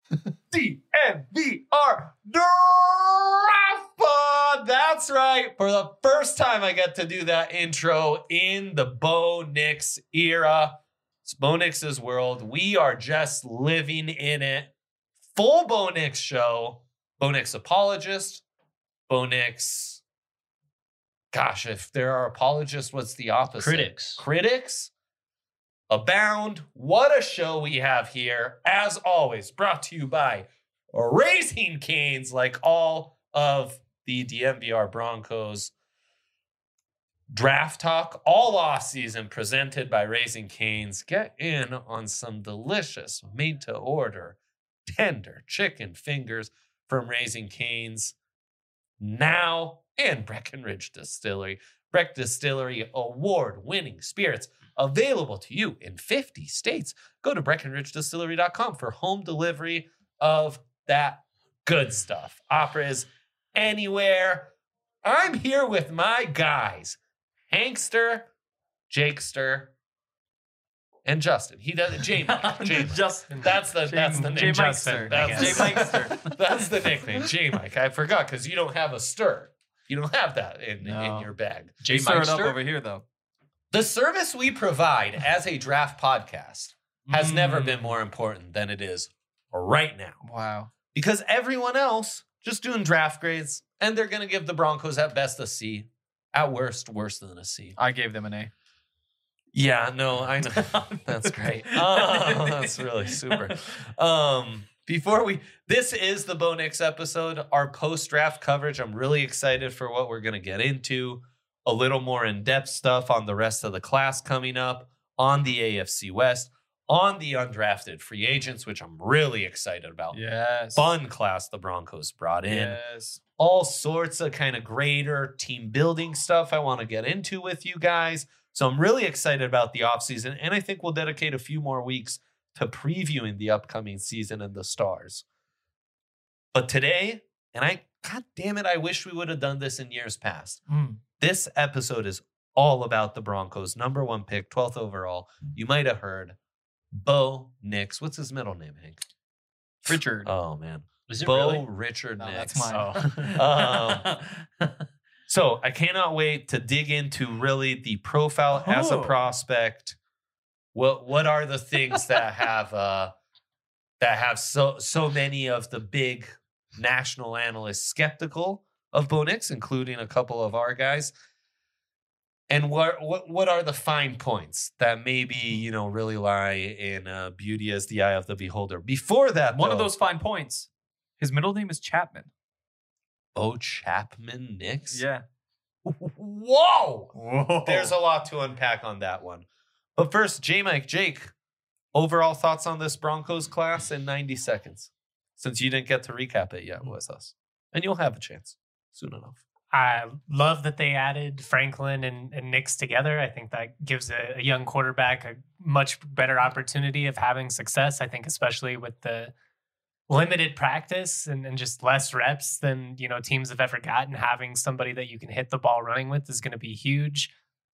DNVR Draft Pod. That's right. For the first time, I get to do that intro in the Bo Nix era. It's Bo Nix's world. We are just living in it. Full Bo Nix show. Bo Nix apologist. Bo Nix. Gosh, if there are apologists, what's the opposite? Critics abound. What a show we have here. As always, brought to you by Raising Cane's, like all of the DNVR Broncos draft talk all off season, presented by Raising Cane's. Get in on some delicious, made to order, tender chicken fingers from Raising Cane's now, and Breckenridge Distillery. Breck Distillery award-winning spirits available to you in 50 states. Go to BreckenridgeDistillery.com for home delivery of that good stuff. Operas anywhere. I'm here with my guys, Hankster, Jakester, and Justin. He does it. Justin. That's the name. Justin. That's the nickname. J Mike. I forgot because you don't have a stir. You don't have that in your bag. J Mike up over here though. The service we provide as a draft podcast has never been more important than it is right now. Wow. Because everyone else just doing draft grades, and they're going to give the Broncos at best a C, at worst, worse than a C. I gave them an A. Yeah, no, I know. That's great. Oh, that's really super. This is the Bo Nix episode, our post-draft coverage. I'm really excited for what we're going to get into. A little more in-depth stuff on the rest of the class coming up, on the AFC West, on the undrafted free agents, which I'm really excited about. Yes. Fun class the Broncos brought in. Yes. All sorts of kind of greater team building stuff I want to get into with you guys. So I'm really excited about the offseason, and I think we'll dedicate a few more weeks to previewing the upcoming season and the stars. But today, God damn it, I wish we would have done this in years past. This episode is all about the Broncos' number 1 pick, 12th overall. You might have heard Bo Nix. What's his middle name, Hank? Richard. Oh, man. Is it Bo really? Richard No, Nix. that's mine. So I cannot wait to dig into really the profile as a prospect. What are the things that have so many of the big national analysts skeptical of Bo Nix, including a couple of our guys? And what are the fine points that maybe really lie in beauty as the eye of the beholder? Before that, One of those fine points. His middle name is Chapman. Bo Chapman Nix? Yeah. Whoa! There's a lot to unpack on that one. But first, Jake, overall thoughts on this Broncos class in 90 seconds, since you didn't get to recap it yet with us. And you'll have a chance soon enough. I love that they added Franklin and Nix together. I think that gives a young quarterback a much better opportunity of having success. I think especially with the limited practice and just less reps than teams have ever gotten, having somebody that you can hit the ball running with is going to be huge.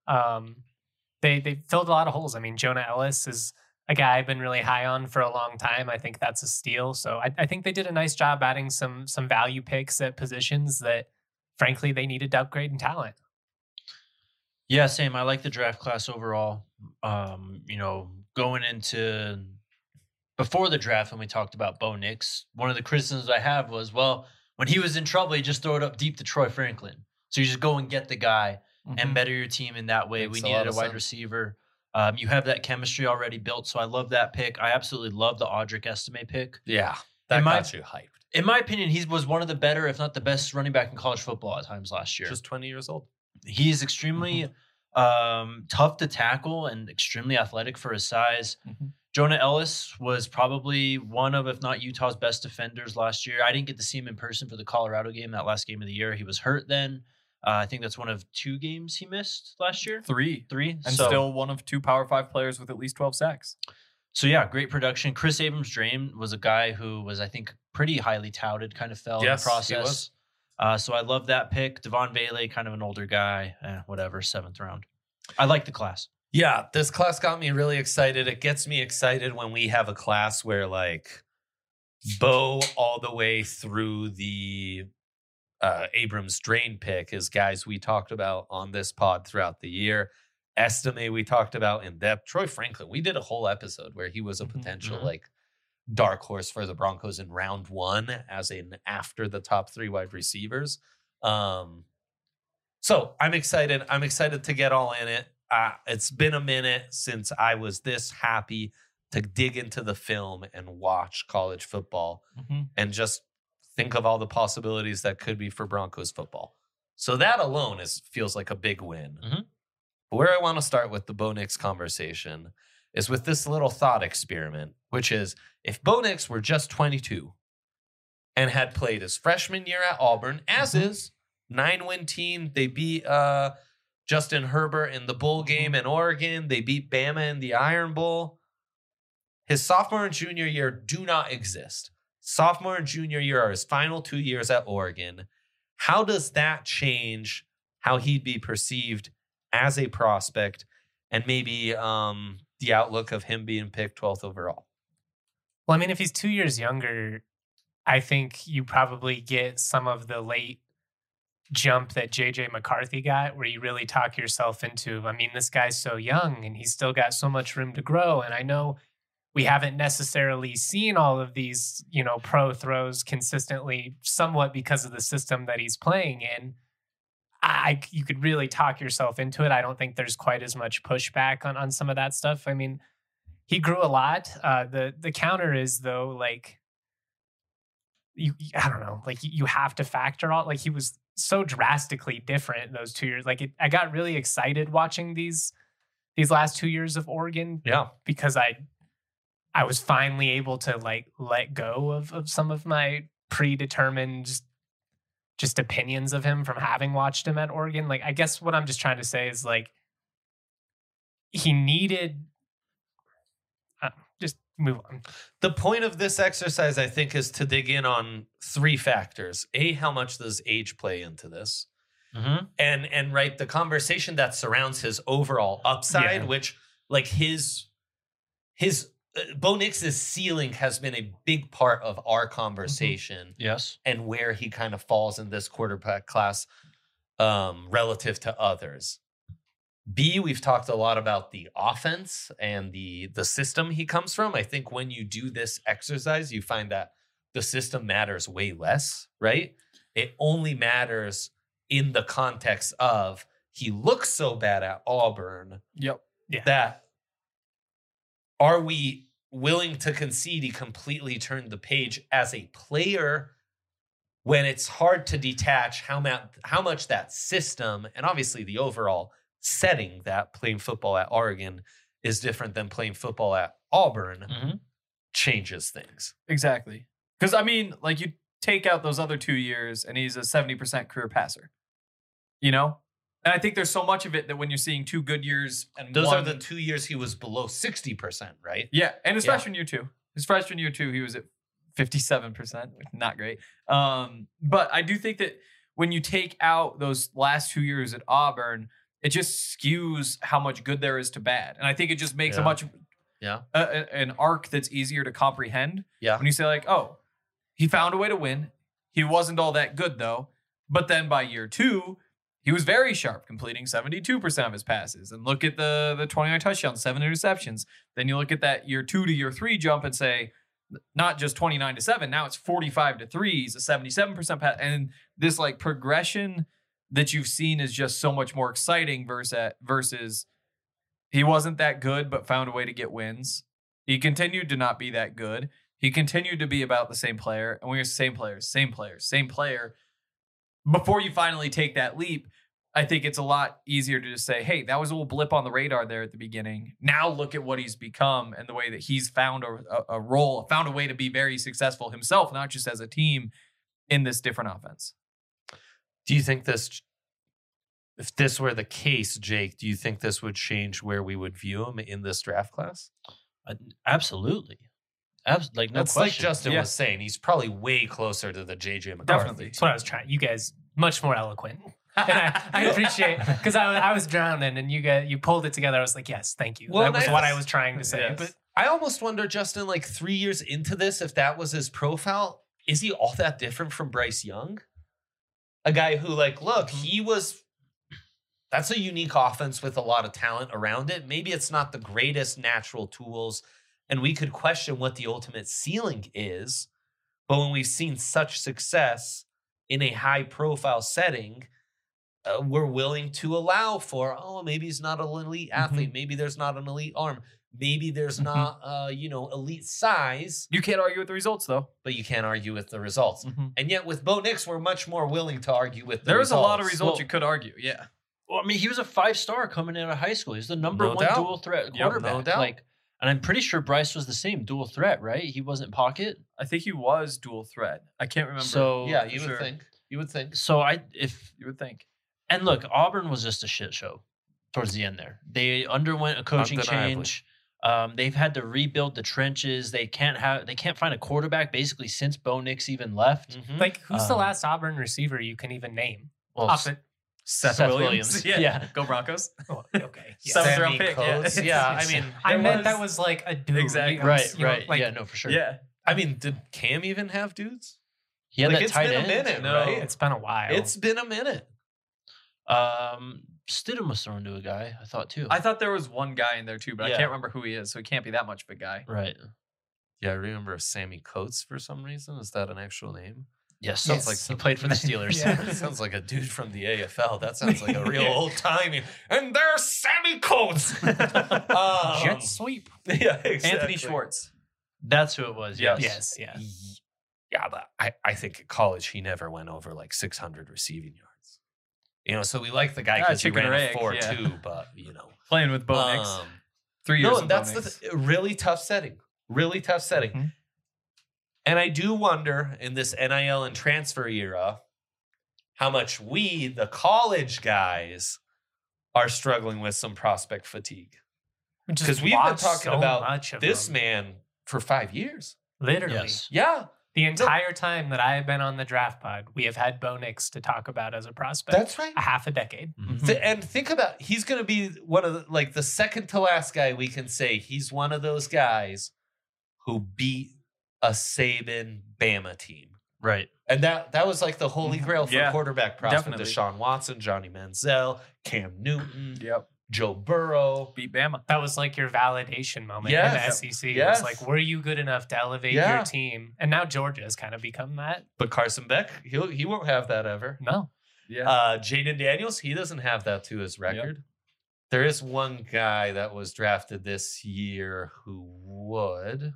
They filled a lot of holes. I mean, Jonah Ellis is a guy I've been really high on for a long time. I think that's a steal. So I think they did a nice job adding some value picks at positions that, frankly, they needed to upgrade in talent. Yeah, same. I like the draft class overall. Going into before the draft, when we talked about Bo Nix, one of the criticisms I have was, well, when he was in trouble, he just throw it up deep to Troy Franklin. So you just go and get the guy and better your team in that way. We needed a wide receiver. You have that chemistry already built, so I love that pick. I absolutely love the Audric Estime pick. Yeah, that got you hyped. In my opinion, he was one of the better, if not the best, running back in college football at times last year. Just 20 years old. He's extremely tough to tackle and extremely athletic for his size. Jonah Ellis was probably one of, if not Utah's best defenders last year. I didn't get to see him in person for the Colorado game, that last game of the year. He was hurt then. I think that's one of 2 games he missed last year. Three. And still one of 2 Power 5 players with at least 12 sacks. So, yeah, great production. Chris Abrams-Drain was a guy who was, I think, pretty highly touted, kind of fell in the process. He was. So I love that pick. Devon Bailey, kind of an older guy, whatever, 7th round. I like the class. Yeah, this class got me really excited. It gets me excited when we have a class where, Bo all the way through the Abrams drain pick is guys we talked about on this pod throughout the year. Estime we talked about in depth. Troy Franklin, we did a whole episode where he was a potential like dark horse for the Broncos in round 1 as in after the top 3 wide receivers. So I'm excited. I'm excited to get all in it. It's been a minute since I was this happy to dig into the film and watch college football and just think of all the possibilities that could be for Broncos football. So that alone feels like a big win. But where I want to start with the Bo Nix conversation is with this little thought experiment, which is if Bo Nix were just 22 and had played his freshman year at Auburn, as is, 9-win team, they beat Justin Herbert in the bowl game in Oregon. They beat Bama in the Iron Bowl. His sophomore and junior year do not exist. Sophomore and junior year are his final 2 years at Oregon. How does that change how he'd be perceived as a prospect and maybe the outlook of him being picked 12th overall? Well, I mean, if he's 2 years younger, I think you probably get some of the late jump that JJ McCarthy got, where you really talk yourself into, I mean, this guy's so young and he's still got so much room to grow. And I know we haven't necessarily seen all of these, pro throws consistently, somewhat because of the system that he's playing in. You could really talk yourself into it. I don't think there's quite as much pushback on some of that stuff. I mean, he grew a lot. The counter is though, like, I don't know, like you have to factor all, like he was so drastically different those 2 years. Like I got really excited watching these last 2 years of Oregon. Yeah. Because I was finally able to like let go of some of my predetermined just opinions of him from having watched him at Oregon. Like, I guess what I'm just trying to say is like, he needed, just move on. The point of this exercise, I think, is to dig in on 3 factors. A, how much does age play into this? And right, the conversation that surrounds his overall upside, which like his Bo Nix's ceiling has been a big part of our conversation. Yes. And where he kind of falls in this quarterback class relative to others. B, we've talked a lot about the offense and the system he comes from. I think when you do this exercise, you find that the system matters way less, right? It only matters in the context of he looks so bad at Auburn. Yep. Yeah. That are we willing to concede he completely turned the page as a player when it's hard to detach how much that system and obviously the overall setting that playing football at Oregon is different than playing football at Auburn changes things. Exactly. Because, I mean, like you take out those other 2 years and he's a 70% career passer, And I think there's so much of it that when you're seeing 2 good years and those are the 2 years he was below 60%, right? Yeah. And his freshman year too. His freshman year too, he was at 57%, not great. But I do think that when you take out those last 2 years at Auburn, it just skews how much good there is to bad. And I think it just makes a much an arc that's easier to comprehend. Yeah. When you say like, oh, he found a way to win. He wasn't all that good though. But then by year 2, he was very sharp, completing 72% of his passes. And look at the 29 touchdowns, 7 interceptions. Then you look at that year 2 to year 3 jump and say, not just 29-7, now it's 45-3. He's a 77% pass. And this like progression that you've seen is just so much more exciting versus he wasn't that good, but found a way to get wins. He continued to not be that good. He continued to be about the same player. And we were same player. Before you finally take that leap, I think it's a lot easier to just say, hey, that was a little blip on the radar there at the beginning. Now look at what he's become and the way that he's found a role, found a way to be very successful himself, not just as a team in this different offense. Do you think if this were the case, Jake, do you think this would change where we would view him in this draft class? Absolutely. Like no That's question. like Justin was saying. He's probably way closer to the JJ McCarthy. Definitely. That's what I was trying. You guys much more eloquent. And I appreciate, because I was drowning and you pulled it together. I was like, yes, thank you. Well, that was what I was trying to say. Yes. But I almost wonder, Justin, like 3 years into this, if that was his profile, is he all that different from Bryce Young? A guy who, like, look, that's a unique offense with a lot of talent around it. Maybe it's not the greatest natural tools, and we could question what the ultimate ceiling is. But when we've seen such success in a high-profile setting, we're willing to allow for, maybe he's not an elite athlete. Maybe there's not an elite arm. Maybe there's not, elite size. You can't argue with the results, though. But you can't argue with the results. And yet with Bo Nix, we're much more willing to argue with the There's results. a lot of results you could argue, yeah. Well, I mean, he was a 5-star coming out of high school. He's the number No one doubt. dual threat Yep, quarterback. no doubt. Like, and I'm pretty sure Bryce was the same dual threat, right? He wasn't pocket. I think he was dual threat. I can't remember. So Yeah, for you would sure. think. You would think. So You would think. and look, Auburn was just a shit show towards the end there. They underwent a coaching Undeniably. change. They've had to rebuild the trenches. They can't find a quarterback basically since Bo Nix even left. Like, who's the Um, last Auburn receiver you can even name? Well, Off it. Seth, Seth Williams. Williams. Yeah. Go Broncos. Oh, okay. Yeah. Seventh Sammy round pick, yeah. Coates. Yeah, I mean, I There meant was- that was like a dude. Exactly. right. Like, Yeah, no, for sure. Yeah. I mean, did Cam even have dudes? He had Like, that it's tight been a end. minute, No. right? It's been a while. It's been a minute. Stidham was thrown to a guy, I thought too. I thought there was one guy in there too, but Yeah. I can't remember who he is, so he can't be that much of a guy. right. Yeah, I remember Sammy Coates for some reason. Is that an actual name? Yes. Sounds Yes. like He some- played for the Steelers. Yeah. Sounds like a dude from the AFL. That sounds like a real old timey. And there's Sammy Coates. Jet sweep. Yeah, exactly. Anthony Schwartz. That's who it was. Yes. Yes, yeah. Yeah, but I think at college he never went over like 600 receiving yards. So we like the guy because he chicken ran or a egg, 4.2, but Playing with Bo Nix. um, 3 years no, of that's Bo Nix. the really tough setting. Really tough setting. Mhm. And I do wonder in this NIL and transfer era how much we, the college guys, are struggling with some prospect fatigue. Because we've been talking about much of this them. man for 5 years. Literally. Yes. Yeah, The entire time that I have been on the draft pod, we have had Bo Nix to talk about as a prospect. that's right. a half a decade. And think about, he's going to be one of the second to last guy we can say he's one of those guys who beat a Saban Bama team. Right. And that was like the holy grail for Yeah, quarterback prospect. definitely. Deshaun Watson, Johnny Manziel, Cam Newton, Yep. Joe Burrow. Beat Bama. That was like your validation moment Yes. in the SEC. Yes. It was like, were you good enough to elevate Yeah. your team? And now Georgia has kind of become that. But Carson Beck, he won't have that ever. No. Yeah. Jaden Daniels, he doesn't have that to his record. There is one guy that was drafted this year who would.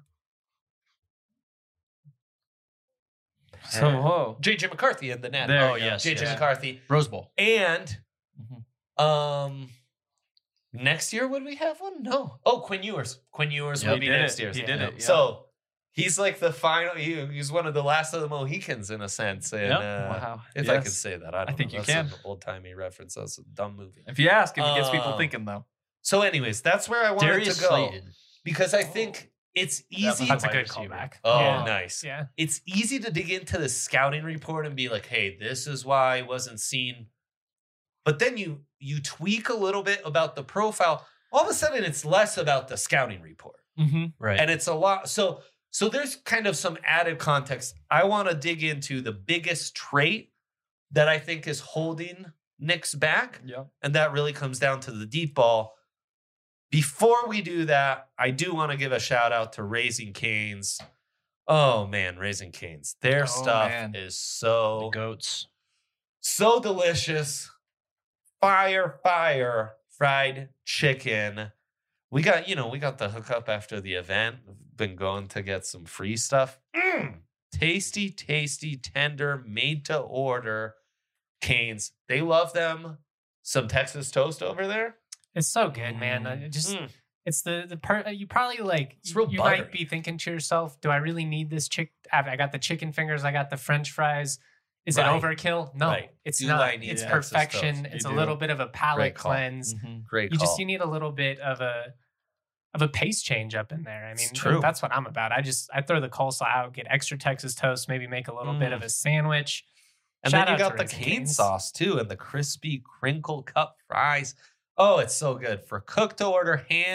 So, whoa. JJ McCarthy in the net. There Oh, you go. yes. JJ yes. McCarthy. Rose Bowl. And Mhm. next year would we have one? No. Oh, Quinn Ewers. Quinn Ewers Yep. would be He did next it. year. He did it. Yeah. So he's like the final. He's one of the last of the Mohicans in a sense. And Yep. Wow. if I Yes. can say that, I don't think know. you That's can. an old timey reference. That's a dumb movie. If you ask, if it gets people Um, thinking, though. So, anyways, that's where I wanted Darius to go Slayton. because I think it's easy. That's a wide good receiver. callback. Oh, Yeah. nice. Yeah. It's easy to dig into the scouting report and be like, "Hey, this is why I wasn't seen." But then you tweak a little bit about the profile. All of a sudden, it's less about the scouting report, Mm-hmm. Right. and it's a lot. So there's kind of some added context. I want to dig into the biggest trait that I think is holding Nick's back, Yep. and that really comes down to the deep ball. Before we do that, I do want to give a shout out to Raising Cane's. Oh man, Raising Cane's. Their Oh, stuff man. is the goats. so delicious. Fire fried chicken. We got the hookup after the event. Been going to get some free stuff. Tasty, tender, made to order Cane's. They love them. Some Texas toast over there. It's so good, man. I just Mm. it's the part you probably like. It's real you buttery. might be thinking to yourself, "Do I really need this I got the chicken fingers. I got the French fries. Is Right. it overkill? No, Right. it's Do not. I need It's Texas perfection. toast? It's You a do. little bit of a palate Great call. cleanse. Great You call. just need a little bit of a pace change up in there. I mean, It's true. that's what I'm about. I throw the coleslaw out, get extra Texas toast, maybe make a little bit of a sandwich. And Shout then you out got to the Raising cane Cane's. sauce too, and the crispy crinkle cut fries. Oh, it's so good for cook to order, hand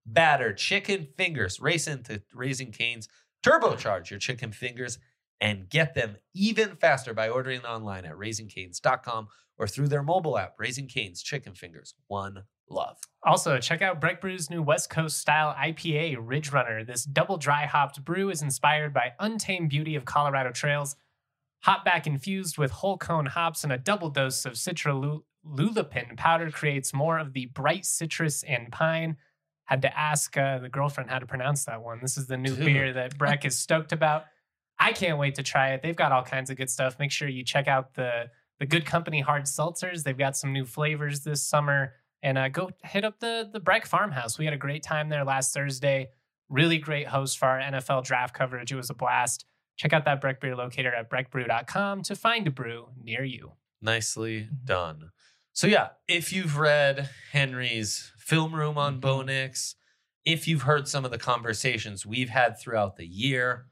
batter chicken fingers. Race into Raising Cane's, turbocharge your chicken fingers, and get them even faster by ordering online at raisingcanes.com or through their mobile app. Raising Cane's Chicken Fingers, one love. Also, check out Breck Brew's new West Coast style IPA, Ridge Runner. This double dry hopped brew is inspired by untamed beauty of Colorado trails. Hopback infused with whole cone hops and a double dose of citrululipin powder creates more of the bright citrus and pine. Had to ask the girlfriend how to pronounce that one. This is the new Dude. beer that Breck is stoked about. I can't wait to try it. They've got all kinds of good stuff. Make sure you check out the Good Company hard seltzers. They've got some new flavors this summer. And go hit up the Breck Farmhouse. We had a great time there last Thursday. Really great host for our NFL draft coverage. It was a blast. Check out that Breck beer locator at breckbrew.com to find a brew near you. Nicely done. So yeah, if you've read Henry's film room on Bo Nix, if you've heard some of the conversations we've had throughout the year,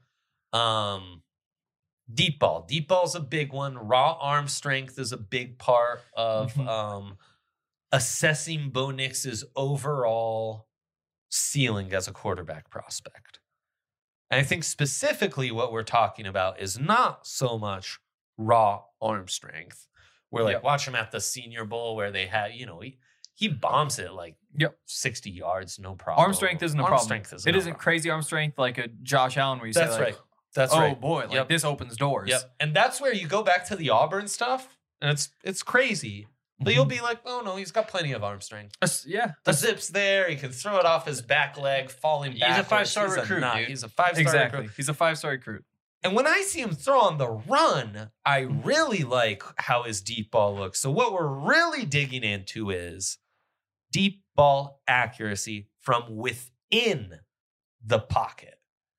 deep ball's a big one. Raw arm strength is a big part of assessing Bo Nix's overall ceiling as a quarterback prospect. And I think specifically what we're talking about is not so much raw arm strength. We're like, watch him at the Senior Bowl where they had, he bombs it like 60 yards, no problem. Arm strength isn't a problem. It isn't crazy arm strength like a Josh Allen where you say, like, That's oh right. boy, like this opens doors. Yep. And that's where you go back to the Auburn stuff, and it's crazy. But you'll be like, oh no, he's got plenty of arm strength. Yeah. The zip's there. He can throw it off his back leg, falling back. He's a 5-star recruit, dude. He's a 5-star recruit. He's a 5-star recruit. And when I see him throw on the run, I really like how his deep ball looks. So what we're really digging into is deep ball accuracy from within the pocket.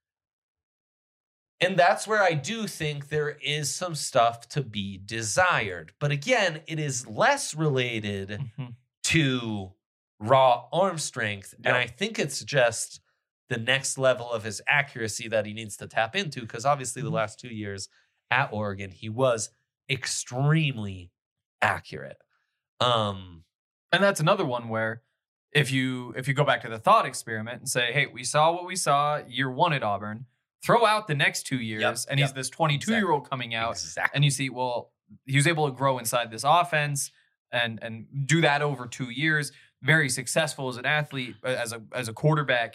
And that's where I do think there is some stuff to be desired. But again, it is less related to raw arm strength. And I think it's just the next level of his accuracy that he needs to tap into. Because obviously the last 2 years at Oregon, he was extremely accurate. And that's another one where if you go back to the thought experiment and say, hey, we saw what we saw year one at Auburn, throw out the next 2 years, and he's this 22-year-old coming out, and you see, well, he was able to grow inside this offense and do that over 2 years. Very successful as an athlete, as a quarterback.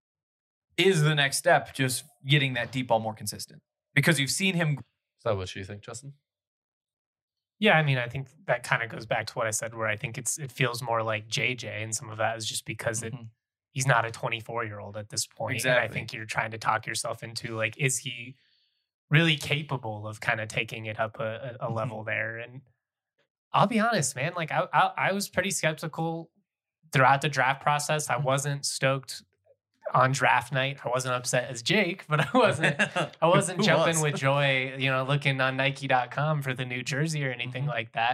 Is the next step just getting that deep ball more consistent? Because you've seen him. Is that what you think, Justin? Yeah, I mean, I think that kind of goes back to what I said, where I think it feels more like JJ, and some of that is just because he's not a 24-year-old at this point. Exactly. And I think you're trying to talk yourself into, like, is he really capable of kind of taking it up a level there? And I'll be honest, man, like I was pretty skeptical throughout the draft process. I wasn't stoked on draft night. I wasn't upset as Jake, but I wasn't jumping with joy, looking on Nike.com for the new jersey or anything like that.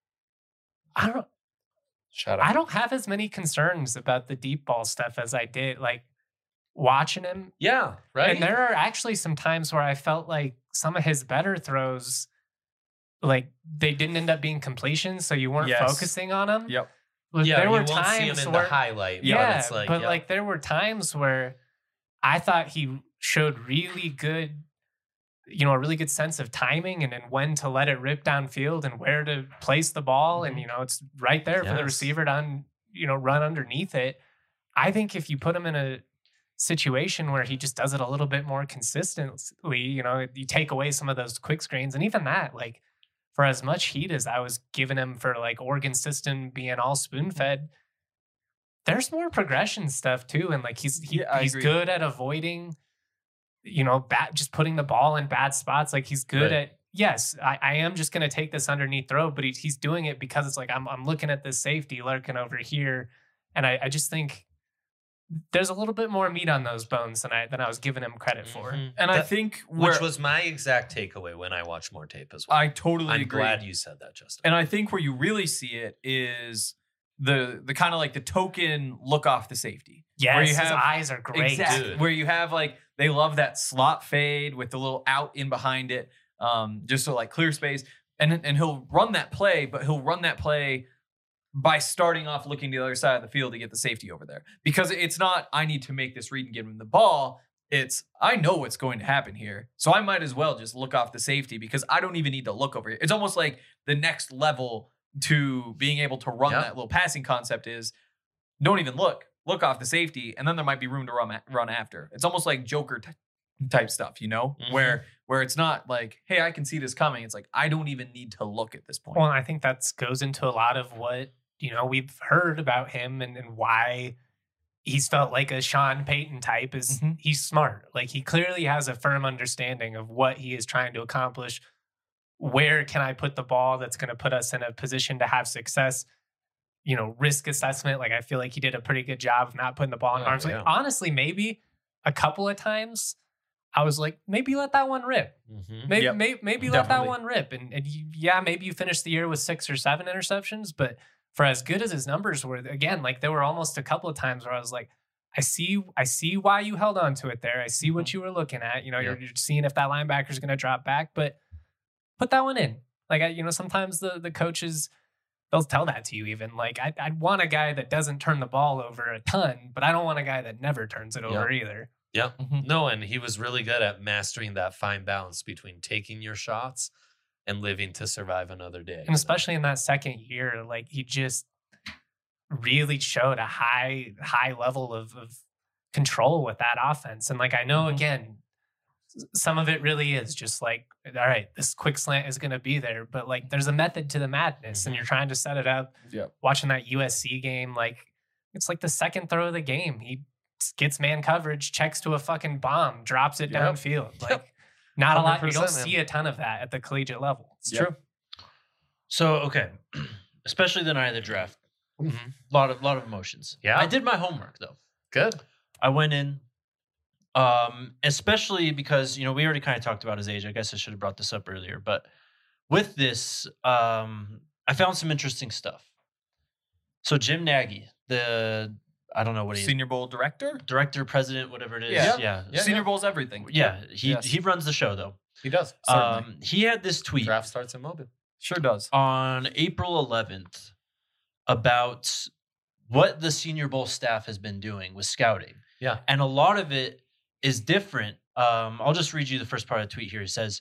I don't have as many concerns about the deep ball stuff as I did, like, watching him. Yeah, right. And there are actually some times where I felt like some of his better throws, like, they didn't end up being completions, so you weren't focusing on them. Yep. Yeah, there were you won't times see him in where, the highlight. Yeah, it's like, like there were times where I thought he showed really good, a really good sense of timing and when to let it rip downfield and where to place the ball. And, it's right there for the receiver to, run underneath it. I think if you put him in a situation where he just does it a little bit more consistently, you take away some of those quick screens, and even that, like, for as much heat as I was giving him for, like, Oregon system being all spoon fed, there's more progression stuff too. And, like, he's good at avoiding, just putting the ball in bad spots. Like, he's good at, yes, I am just going to take this underneath throw, but he's doing it because it's like, I'm looking at this safety lurking over here. And I just think there's a little bit more meat on those bones than I was giving him credit for. And I think which was my exact takeaway when I watched more tape as well. I totally agree. I'm glad you said that, Justin. And I think where you really see it is the kind of like the token look off the safety. Yes, where you his have, eyes are great. Exactly. Dude. Where you have, like, they love that slot fade with the little out in behind it, just so, like, clear space. And he'll run that play, but he'll run that play by starting off looking to the other side of the field to get the safety over there. Because it's not, I need to make this read and give him the ball. It's, I know what's going to happen here. So I might as well just look off the safety because I don't even need to look over here. It's almost like the next level to being able to run that little passing concept is don't even look off the safety, and then there might be room to run after. It's almost like Joker type stuff, you know, where it's not like, hey, I can see this coming. It's like, I don't even need to look at this point. Well, I think that goes into a lot of what, we've heard about him and why he's felt like a Sean Payton type is he's smart. Like, he clearly has a firm understanding of what he is trying to accomplish. Where can I put the ball that's going to put us in a position to have success? Risk assessment. Like, I feel like he did a pretty good job of not putting the ball in arms. Like, honestly, maybe a couple of times I was like, maybe let that one rip. Maybe let that one rip. And maybe you finish the year with 6 or 7 interceptions, but for as good as his numbers were, again, like, there were almost a couple of times where I was like, I see why you held on to it there. I see what you were looking at. You're seeing if that linebacker is going to drop back, but put that one in. Like, sometimes the coaches, they'll tell that to you even. Like, I'd want a guy that doesn't turn the ball over a ton, but I don't want a guy that never turns it over either. Yeah. No, and he was really good at mastering that fine balance between taking your shots and living to survive another day. And especially in that second year, like, he just really showed a high level of control with that offense. And, like, I know, again, some of it really is just like, all right, this quick slant is going to be there, but, like, there's a method to the madness and you're trying to set it up. Watching that USC game, like, it's like the second throw of the game. He gets man coverage, checks to a fucking bomb, drops it downfield. Like, not a lot. You don't see a ton of that at the collegiate level. It's true. So, okay. Especially the night of the draft. A lot of emotions. Yeah. I did my homework, though. Good. I went in, especially because, we already kind of talked about his age. I guess I should have brought this up earlier. But with this, I found some interesting stuff. So Jim Nagy, I don't know what he is. Senior Bowl director, president, whatever it is. Yeah. Senior Bowl's everything. Yeah. He runs the show, though. He does. He had this tweet. Draft starts in Mobile. Sure does. On April 11th about what the Senior Bowl staff has been doing with scouting. Yeah. And a lot of it is different. I'll just read you the first part of the tweet here. It says,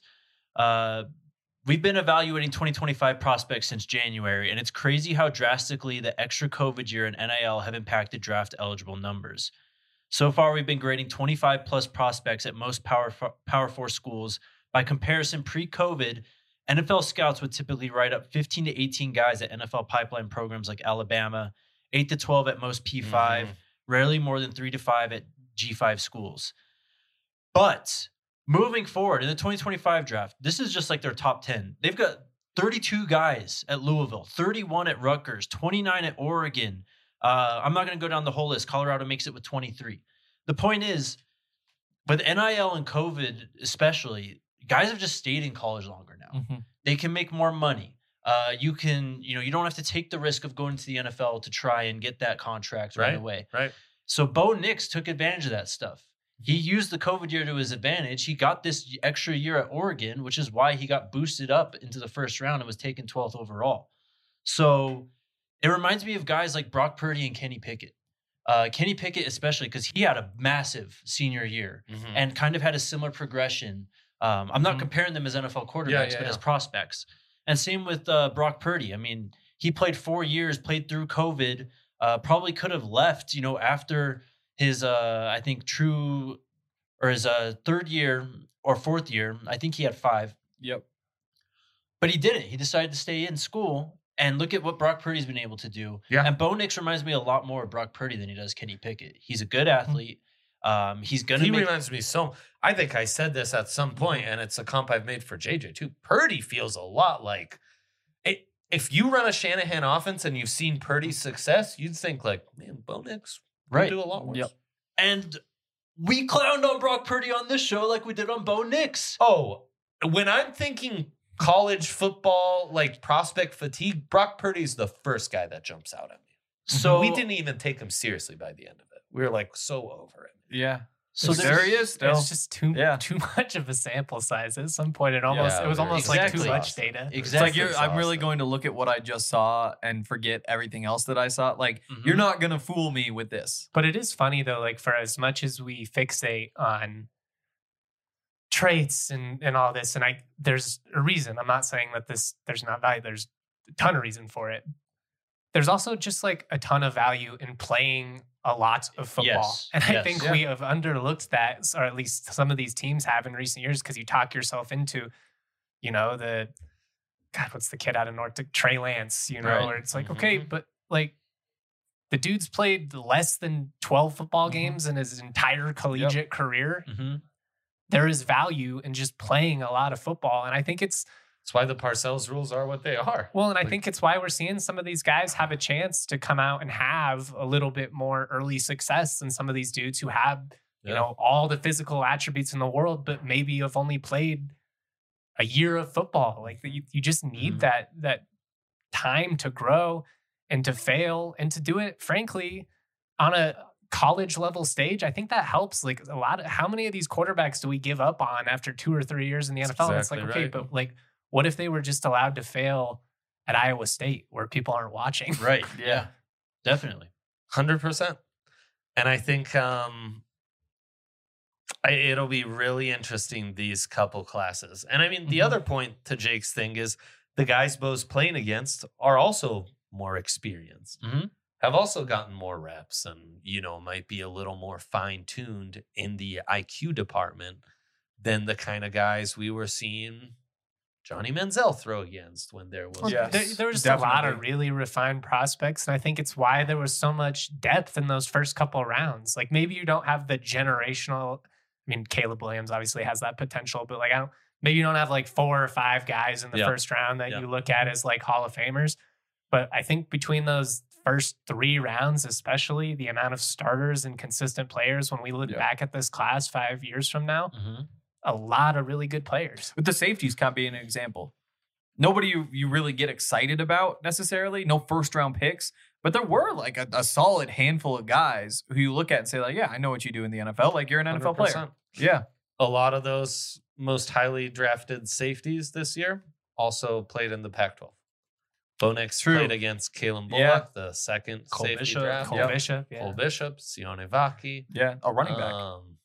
we've been evaluating 2025 prospects since January, and it's crazy how drastically the extra COVID year and NIL have impacted draft eligible numbers. So far, we've been grading 25 plus prospects at most Power 4 schools. By comparison, pre-COVID, NFL scouts would typically write up 15 to 18 guys at NFL pipeline programs like Alabama, 8 to 12 at most P5, rarely more than 3 to 5 at G5 schools. But moving forward in the 2025 draft, this is just like their top 10. They've got 32 guys at Louisville, 31 at Rutgers, 29 at Oregon. I'm not going to go down the whole list. Colorado makes it with 23. The point is, with NIL and COVID especially, guys have just stayed in college longer now. They can make more money. You don't have to take the risk of going to the NFL to try and get that contract right away. Right. So Bo Nix took advantage of that stuff. He used the COVID year to his advantage. He got this extra year at Oregon, which is why he got boosted up into the first round and was taken 12th overall. So it reminds me of guys like Brock Purdy and Kenny Pickett. Kenny Pickett especially, because he had a massive senior year and kind of had a similar progression. I'm not comparing them as NFL quarterbacks, but as prospects. And same with Brock Purdy. I mean, he played 4 years, played through COVID, probably could have left, after his, I think, his third year or fourth year. I think he had 5. Yep. But he didn't. He decided to stay in school. And look at what Brock Purdy's been able to do. Yeah. And Bo Nix reminds me a lot more of Brock Purdy than he does Kenny Pickett. He's a good athlete. He reminds me so. I think I said this at some point, and it's a comp I've made for JJ too. Purdy feels a lot like it. If you run a Shanahan offense and you've seen Purdy's success, you'd think like, man, Bo Nix would do a lot worse. Yep. And we clowned on Brock Purdy on this show like we did on Bo Nix. Oh, when I'm thinking college football, like prospect fatigue, Brock Purdy's the first guy that jumps out at me. So we didn't even take him seriously by the end of it. We were like so over it. Yeah. So there he is still. It's just too much of a sample size. At some point, it was almost like too much data. Exactly. It's like I'm really going to look at what I just saw and forget everything else that I saw. Like you're not gonna fool me with this. But it is funny though, like for as much as we fixate on traits and all this, and there's a reason. I'm not saying that there's not value. There's a ton of reason for it. There's also just like a ton of value in playing a lot of football. Yes. And I think we have underlooked that, or at least some of these teams have in recent years, because you talk yourself into, what's the kid out of North, Trey Lance, Right. where it's like, okay, but like the dude's played less than 12 football games in his entire collegiate career. Mm-hmm. There is value in just playing a lot of football. And I think it's why the Parcells rules are what they are. Well, and I think it's why we're seeing some of these guys have a chance to come out and have a little bit more early success than some of these dudes who have, all the physical attributes in the world, but maybe have only played a year of football. Like you just need that time to grow and to fail and to do it, frankly, on a college level stage. I think that helps. Like how many of these quarterbacks do we give up on after 2 or 3 years in the NFL? Exactly It's like, okay, right. but like, what if they were just allowed to fail at Iowa State where people aren't watching? Right. Yeah. Definitely. 100%. And I think it'll be really interesting, these couple classes. And I mean, the other point to Jake's thing is the guys Bo's playing against are also more experienced, have also gotten more reps and, might be a little more fine-tuned in the IQ department than the kind of guys we were seeing Johnny Manziel throw against when there was. There was just a lot of really refined prospects. And I think it's why there was so much depth in those first couple of rounds. Like maybe you don't have the generational. I mean, Caleb Williams obviously has that potential, but like maybe you don't have like 4 or 5 guys in the first round that you look at as like Hall of Famers. But I think between those first 3 rounds, especially the amount of starters and consistent players, when we look back at this class 5 years from now, a lot of really good players. With the safeties kind of being an example. Nobody you really get excited about necessarily. No first round picks. But there were like a solid handful of guys who you look at and say like, yeah, I know what you do in the NFL. Like you're an NFL 100%. player. Yeah. A lot of those most highly drafted safeties this year also played in the Pac-12. Bo Nix played against Kalen Bullock, the second Cole safety Bishop, draft. Cole Bishop. Cole Bishop, Sione Vaki. Yeah. A running back.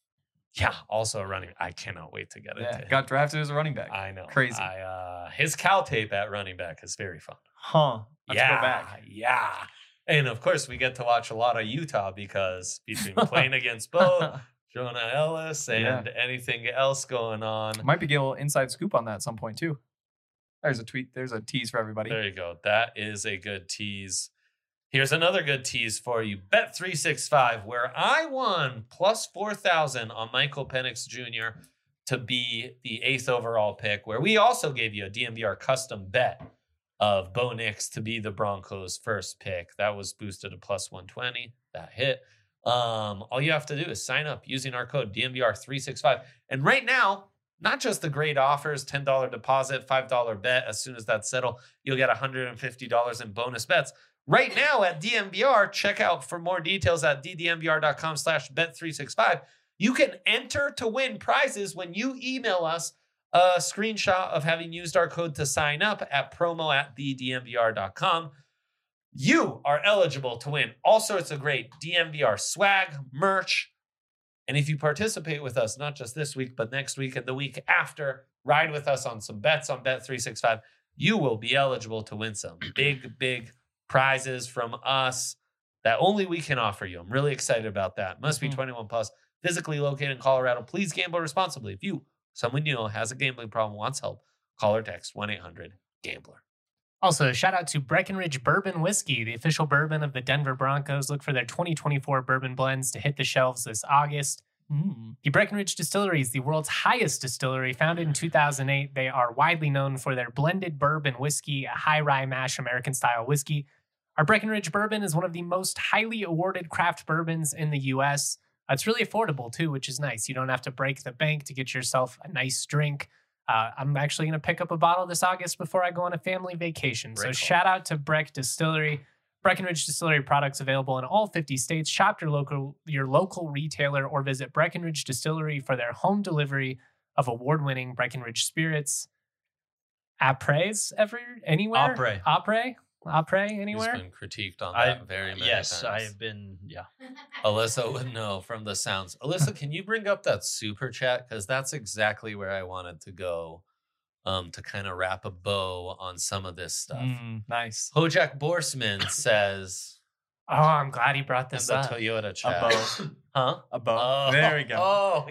Also a running. I cannot wait to get it. Yeah. Got drafted as a running back. I know. Crazy. His Cal tape at running back is very fun. Huh. Let's go back. Yeah. And of course, we get to watch a lot of Utah because between playing against Bo, Jonah Ellis, and anything else going on. Might be get a little inside scoop on that at some point too. There's a tweet. There's a tease for everybody. There you go. That is a good tease. Here's another good tease for you. Bet365, where I won plus 4,000 on Michael Penix Jr. to be the 8th overall pick, where we also gave you a DMVR custom bet of Bo Nix to be the Broncos' first pick. That was boosted to plus 120. That hit. All you have to do is sign up using our code DMVR365. And right now, not just the great offers, $10 deposit, $5 bet. As soon as that's settled, you'll get $150 in bonus bets. Right now at DMVR, check out for more details at ddmvr.com/bet365. You can enter to win prizes when you email us a screenshot of having used our code to sign up at promo@ddmvr.com. You are eligible to win all sorts of great DMVR swag, merch. And if you participate with us, not just this week, but next week and the week after, ride with us on some bets on Bet365, you will be eligible to win some big prizes from us that only we can offer you. I'm really excited about that. Must be 21 plus, physically located in Colorado. Please gamble responsibly. If someone you know has a gambling problem, wants help, call or text 1-800-GAMBLER. Also, shout out to Breckenridge Bourbon Whiskey, the official bourbon of the Denver Broncos. Look for their 2024 bourbon blends to hit the shelves this August. The Breckenridge Distillery is the world's highest distillery. Founded in 2008, they are widely known for their blended bourbon whiskey, a high rye mash American-style whiskey. Our Breckenridge bourbon is one of the most highly awarded craft bourbons in the U.S. It's really affordable, too, which is nice. You don't have to break the bank to get yourself a nice drink. I'm actually going to pick up a bottle this August before I go on a family vacation. So shout out to Breck Distillery. Breckenridge Distillery products available in all 50 states. Shop your local retailer or visit Breckenridge Distillery for their home delivery of award-winning Breckenridge spirits. Apres anywhere? Apres anywhere? He's been critiqued on that very many Yes, times. I have been. Yeah. Alyssa would know from the sounds. Alyssa, can you bring up that super chat? Because that's exactly where I wanted to go to kind of wrap a bow on some of this stuff. Nice. Hojak Borsman says, Oh, I'm glad he brought in this the up. Toyota A chat. bow. Huh? A bow. Oh, There we go. Oh,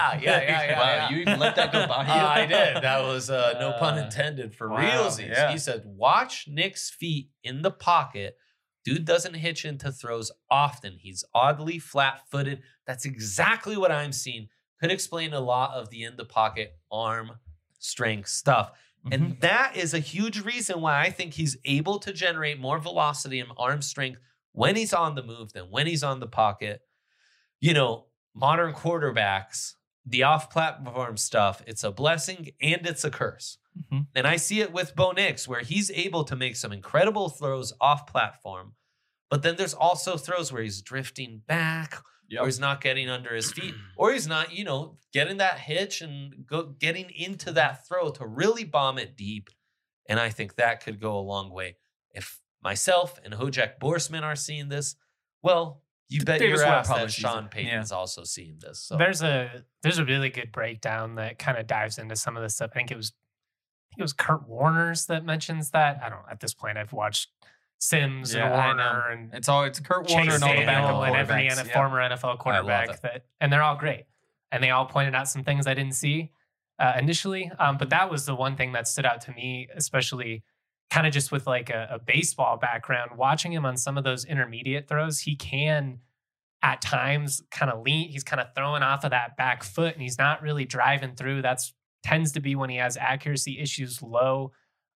yeah. Wow, you even let that go by you? I did. That was no pun intended for Wow, realsies. yeah. He said, watch Nick's feet in the pocket. Dude doesn't hitch into throws often. He's oddly flat-footed. That's exactly what I'm seeing. Could explain a lot of the in the pocket arm strength stuff. And that is a huge reason why I think he's able to generate more velocity and arm strength when he's on the move than when he's on the pocket. You know, modern quarterbacks, the off-platform stuff, it's a blessing and it's a curse. And I see it with Bo Nix, where he's able to make some incredible throws off-platform, but then there's also throws where he's drifting back, or he's not getting under his feet, or he's not, getting that hitch and getting into that throw to really bomb it deep. And I think that could go a long way. If myself and Hojak Borsman are seeing this, well, you bet Davis your Webb ass probably that sees Sean it. Payton's also seeing this. So There's a really good breakdown that kind of dives into some of this stuff. I think it was Kurt Warner's that mentions that. I don't know. At this point, I've watched Sims Yeah, and I Warner and It's Kurt Warner Chase and all the backup Daniel and every quarterbacks. Yep. former NFL quarterback and they're all great. And they all pointed out some things I didn't see initially. But that was the one thing that stood out to me, especially kind of just with like a baseball background. Watching him on some of those intermediate throws, he can at times kind of lean. He's kind of throwing off of that back foot and he's not really driving through. That's tends to be when he has accuracy issues low.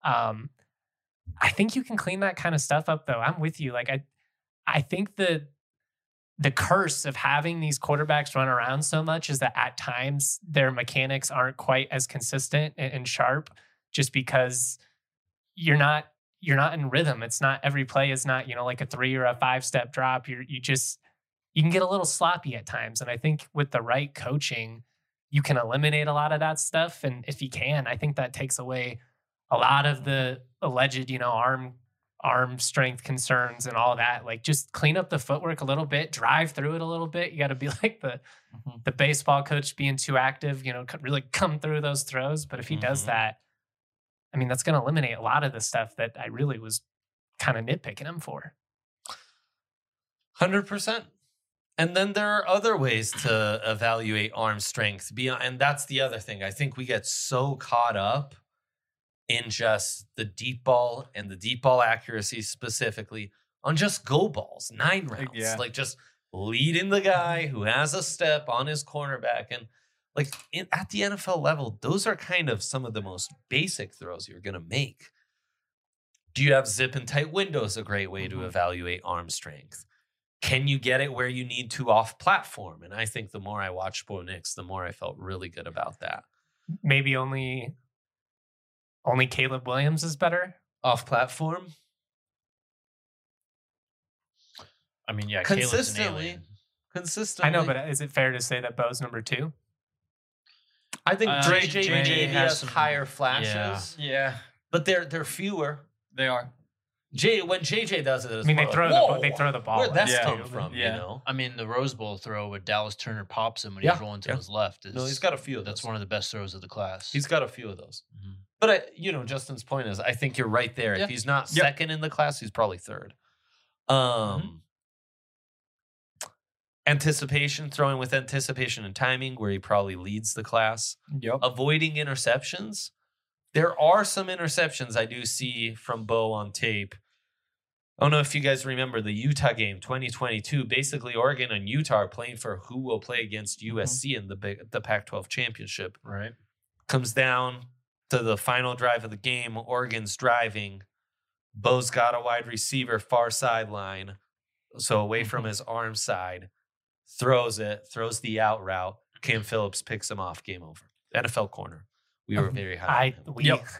I think you can clean that kind of stuff up though. I'm with you. Like I think the curse of having these quarterbacks run around so much is that at times their mechanics aren't quite as consistent and sharp just because you're not in rhythm. It's not every play is not, like a 3 or a 5 step drop. You can get a little sloppy at times. And I think with the right coaching, you can eliminate a lot of that stuff. And if you can, I think that takes away a lot of the alleged, arm strength concerns and all that. Like just clean up the footwork a little bit, drive through it a little bit. You got to be like the baseball coach being too active, really come through those throws. But if he does that, I mean, that's going to eliminate a lot of the stuff that I really was kind of nitpicking him for. 100%. And then there are other ways to evaluate arm strength beyond, and that's the other thing. I think we get so caught up in just the deep ball and the deep ball accuracy specifically on just go balls, 9 rounds, like just leading the guy who has a step on his cornerback. And like at the NFL level, those are kind of some of the most basic throws you're going to make. Do you have zip and tight windows? A great way to evaluate arm strength. Can you get it where you need to off platform? And I think the more I watched Bo Nix, the more I felt really good about that. Maybe only Caleb Williams is better Off platform? I mean, yeah, Consistently. I know, but is it fair to say that Bo's number 2? I think JJ JJ has has some- higher flashes, Yeah, but they're fewer. they are. When JJ does it, it's I mean, more they like, throw the ball. where'd that Yeah. come from? Yeah. You know, I mean, the Rose Bowl throw where Dallas Turner pops him when Yeah, he's rolling to yeah. his left. no, he's got a few of those. That's one of the best throws of the class. He's got a few of those. Mhm. But Justin's point is, I think you're right there. Yeah. If he's not Yep. second in the class, he's probably third. Anticipation, throwing with anticipation and timing, where he probably leads the class. Yep. Avoiding interceptions. There are some interceptions I do see from Bo on tape. I don't know if you guys remember the Utah game, 2022. Basically, Oregon and Utah are playing for who will play against USC in the Pac-12 championship. right. Comes down to the final drive of the game. Oregon's driving. Bo's got a wide receiver far sideline, so away from his arm side. Throws the out route. Cam Phillips picks him off. Game over. NFL corner. We were very high. on him.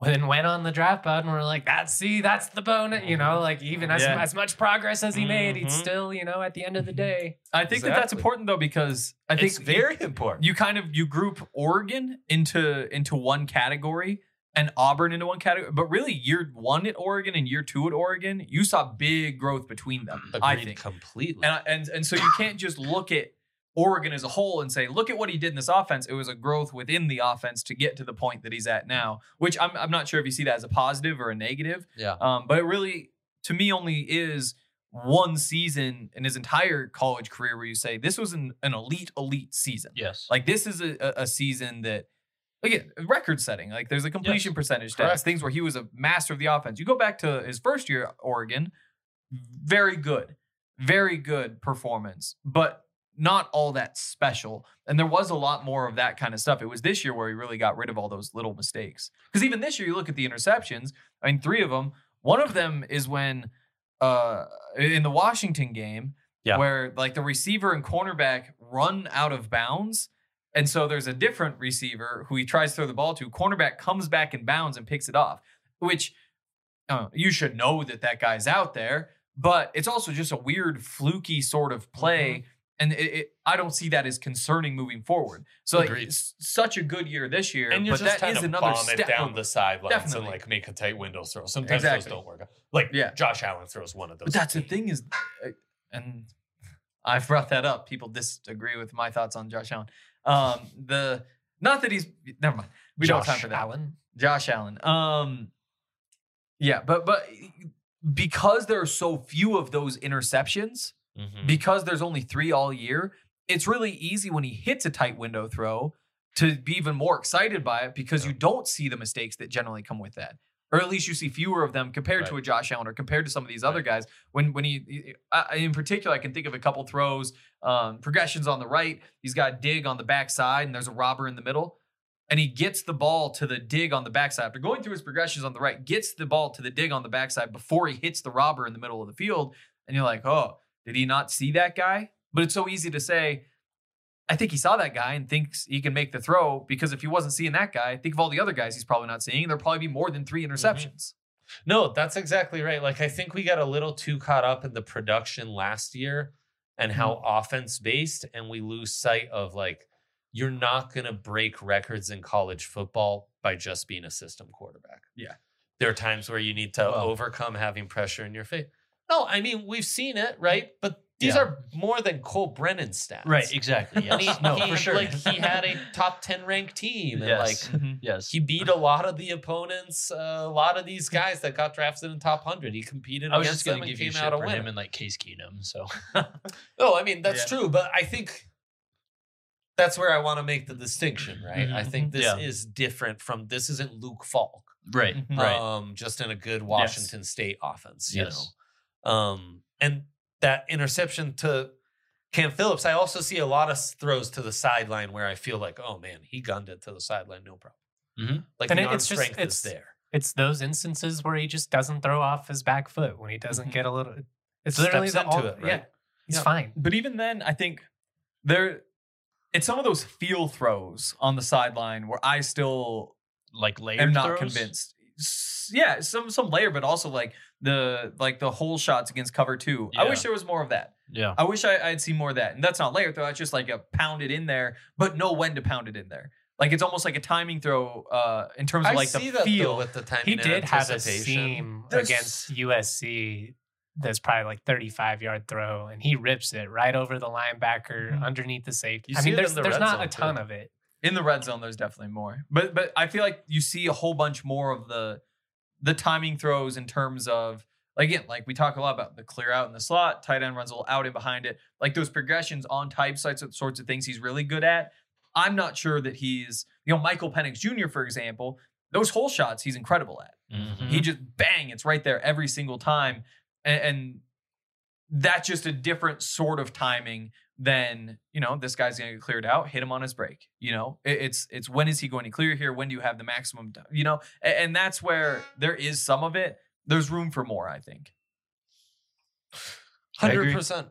then went on the draft pod and we're like, that's the bonus, like even as much progress as he made, he'd still, at the end of the day. I think that's important though, because I think it's very important. You group Oregon into one category and Auburn into one category, but really year 1 at Oregon and year 2 at Oregon, you saw big growth between them. Agreed, I think completely. And so you can't just look at Oregon as a whole and say, look at what he did in this offense. It was a growth within the offense to get to the point that he's at now, which I'm not sure if you see that as a positive or a negative. Yeah. But it really, to me, only is one season in his entire college career where you say this was an elite season. Yes. Like this is a season that, again, record setting. Like there's a completion percentage stats, things where he was a master of the offense. You go back to his first year at Oregon, very good performance, but not all that special. And there was a lot more of that kind of stuff. It was this year where he really got rid of all those little mistakes. Because even this year, you look at the interceptions, 3 of them, one of them is when in the Washington game, where like the receiver and cornerback run out of bounds. And so there's a different receiver who he tries to throw the ball to. Cornerback comes back in bounds and picks it off, which you should know that guy's out there. But it's also just a weird, fluky sort of play. And I don't see that as concerning moving forward. So like, it's such a good year this year, and you're but just that is another bomb step it down the sidelines Definitely. and like make a tight window throw. Sometimes those don't work. Josh Allen throws one of those. But that's the thing is, and I've brought that up. People disagree with my thoughts on Josh Allen. Not that he's never mind. We don't have time for that. Josh Allen. But because there are so few of those interceptions. Because there's only 3 all year, it's really easy when he hits a tight window throw to be even more excited by it because you don't see the mistakes that generally come with that. Or at least you see fewer of them compared to a Josh Allen or compared to some of these other guys. When he, in particular, I can think of a couple throws, progressions on the right. He's got a dig on the backside and there's a robber in the middle. And he gets the ball to the dig on the backside. After going through his progressions on the right, gets the ball to the dig on the backside before he hits the robber in the middle of the field. And you're like, oh, did he not see that guy? But it's so easy to say, I think he saw that guy and thinks he can make the throw because if he wasn't seeing that guy, think of all the other guys he's probably not seeing. There'll probably be more than 3 interceptions. No, that's exactly right. Like, I think we got a little too caught up in the production last year and how offense-based, and we lose sight of, like, you're not going to break records in college football by just being a system quarterback. Yeah. There are times where you need to overcome having pressure in your face. No, I mean, we've seen it, right? But these are more than Cole Brennan stats. Right, exactly. Yes. For sure. Like, he had a top 10 ranked team. And he beat a lot of the opponents, a lot of these guys that got drafted in top 100. He competed against them and came out a winner. I was just going to give you shit for him and like Case Keenum. So, no, I mean, that's true. But I think that's where I want to make the distinction, right? I think this is different from, this isn't Luke Falk. Right. Just in a good Washington State offense, you know? And that interception to Cam Phillips, I also see a lot of throws to the sideline where I feel like, oh man, he gunned it to the sideline, no problem. Like, and the arm strength is there. It's those instances where he just doesn't throw off his back foot when he doesn't get a little. It's literally into it, right? Yeah, he's fine. But even then, I think it's some of those feel throws on the sideline where I still like layered am not throws? convinced. Yeah, some layer, but also like the hole shots against cover 2. I wish there was more of that. Yeah, I wish I'd see more of that. And that's not layer throw. It's just like a pound it in there, but know when to pound it in there. Like it's almost like a timing throw in terms of like the feel. With the timing, he did have a anticipation. seam against USC. That's probably like 35-yard throw, and he rips it right over the linebacker underneath the safety. I mean, there's not a ton of it. In the red zone, there's definitely more. But I feel like you see a whole bunch more of the timing throws in terms of, again, like we talk a lot about the clear out in the slot, tight end runs a little out in behind it. Like those progressions on type sorts of things he's really good at. I'm not sure that he's, Michael Penix Jr., for example, those hole shots he's incredible at. He just bang, it's right there every single time. And that's just a different sort of timing than, this guy's going to get cleared out, hit him on his break. It's when is he going to clear here? When do you have the maximum, and that's where there is some of it. There's room for more, I think. 100%.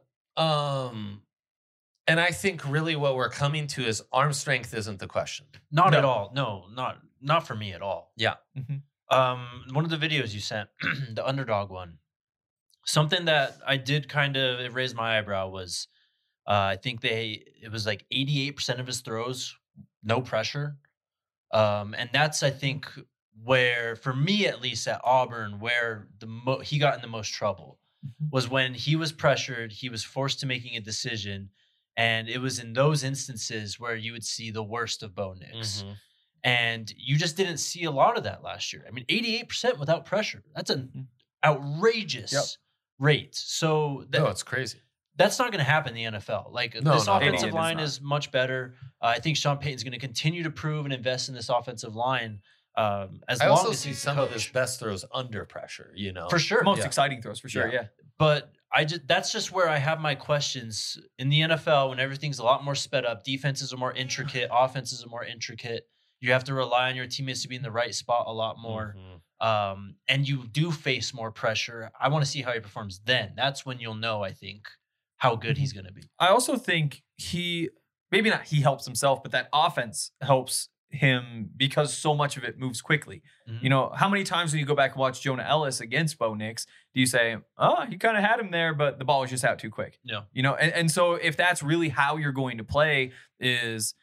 And I think really what we're coming to is arm strength isn't the question. Not at all. No, not for me at all. Yeah. One of the videos you sent, the underdog one, something that I did kind of it raised my eyebrow was, I think it was like 88% of his throws, no pressure, and that's I think where for me at least at Auburn where he got in the most trouble was when he was pressured, he was forced to making a decision, and it was in those instances where you would see the worst of Bo Nix. And you just didn't see a lot of that last year. I mean, 88% without pressure. That's an outrageous rate. So it's crazy. That's not going to happen in the NFL. Like this offensive line is much better. I think Sean Payton's going to continue to prove and invest in this offensive line. I also see some of his best throws under pressure, for sure. Most exciting throws for sure. Yeah. But that's just where I have my questions in the NFL when everything's a lot more sped up. Defenses are more intricate. Offenses are more intricate. You have to rely on your teammates to be in the right spot a lot more. And you do face more pressure. I want to see how he performs then. That's when you'll know, I think, how good he's going to be. I also think maybe not he helps himself, but that offense helps him because so much of it moves quickly. How many times when you go back and watch Jonah Ellis against Bo Nix, do you say, oh, he kind of had him there, but the ball was just out too quick? Yeah. And so if that's really how you're going to play is,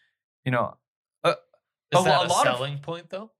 is that a selling point, though?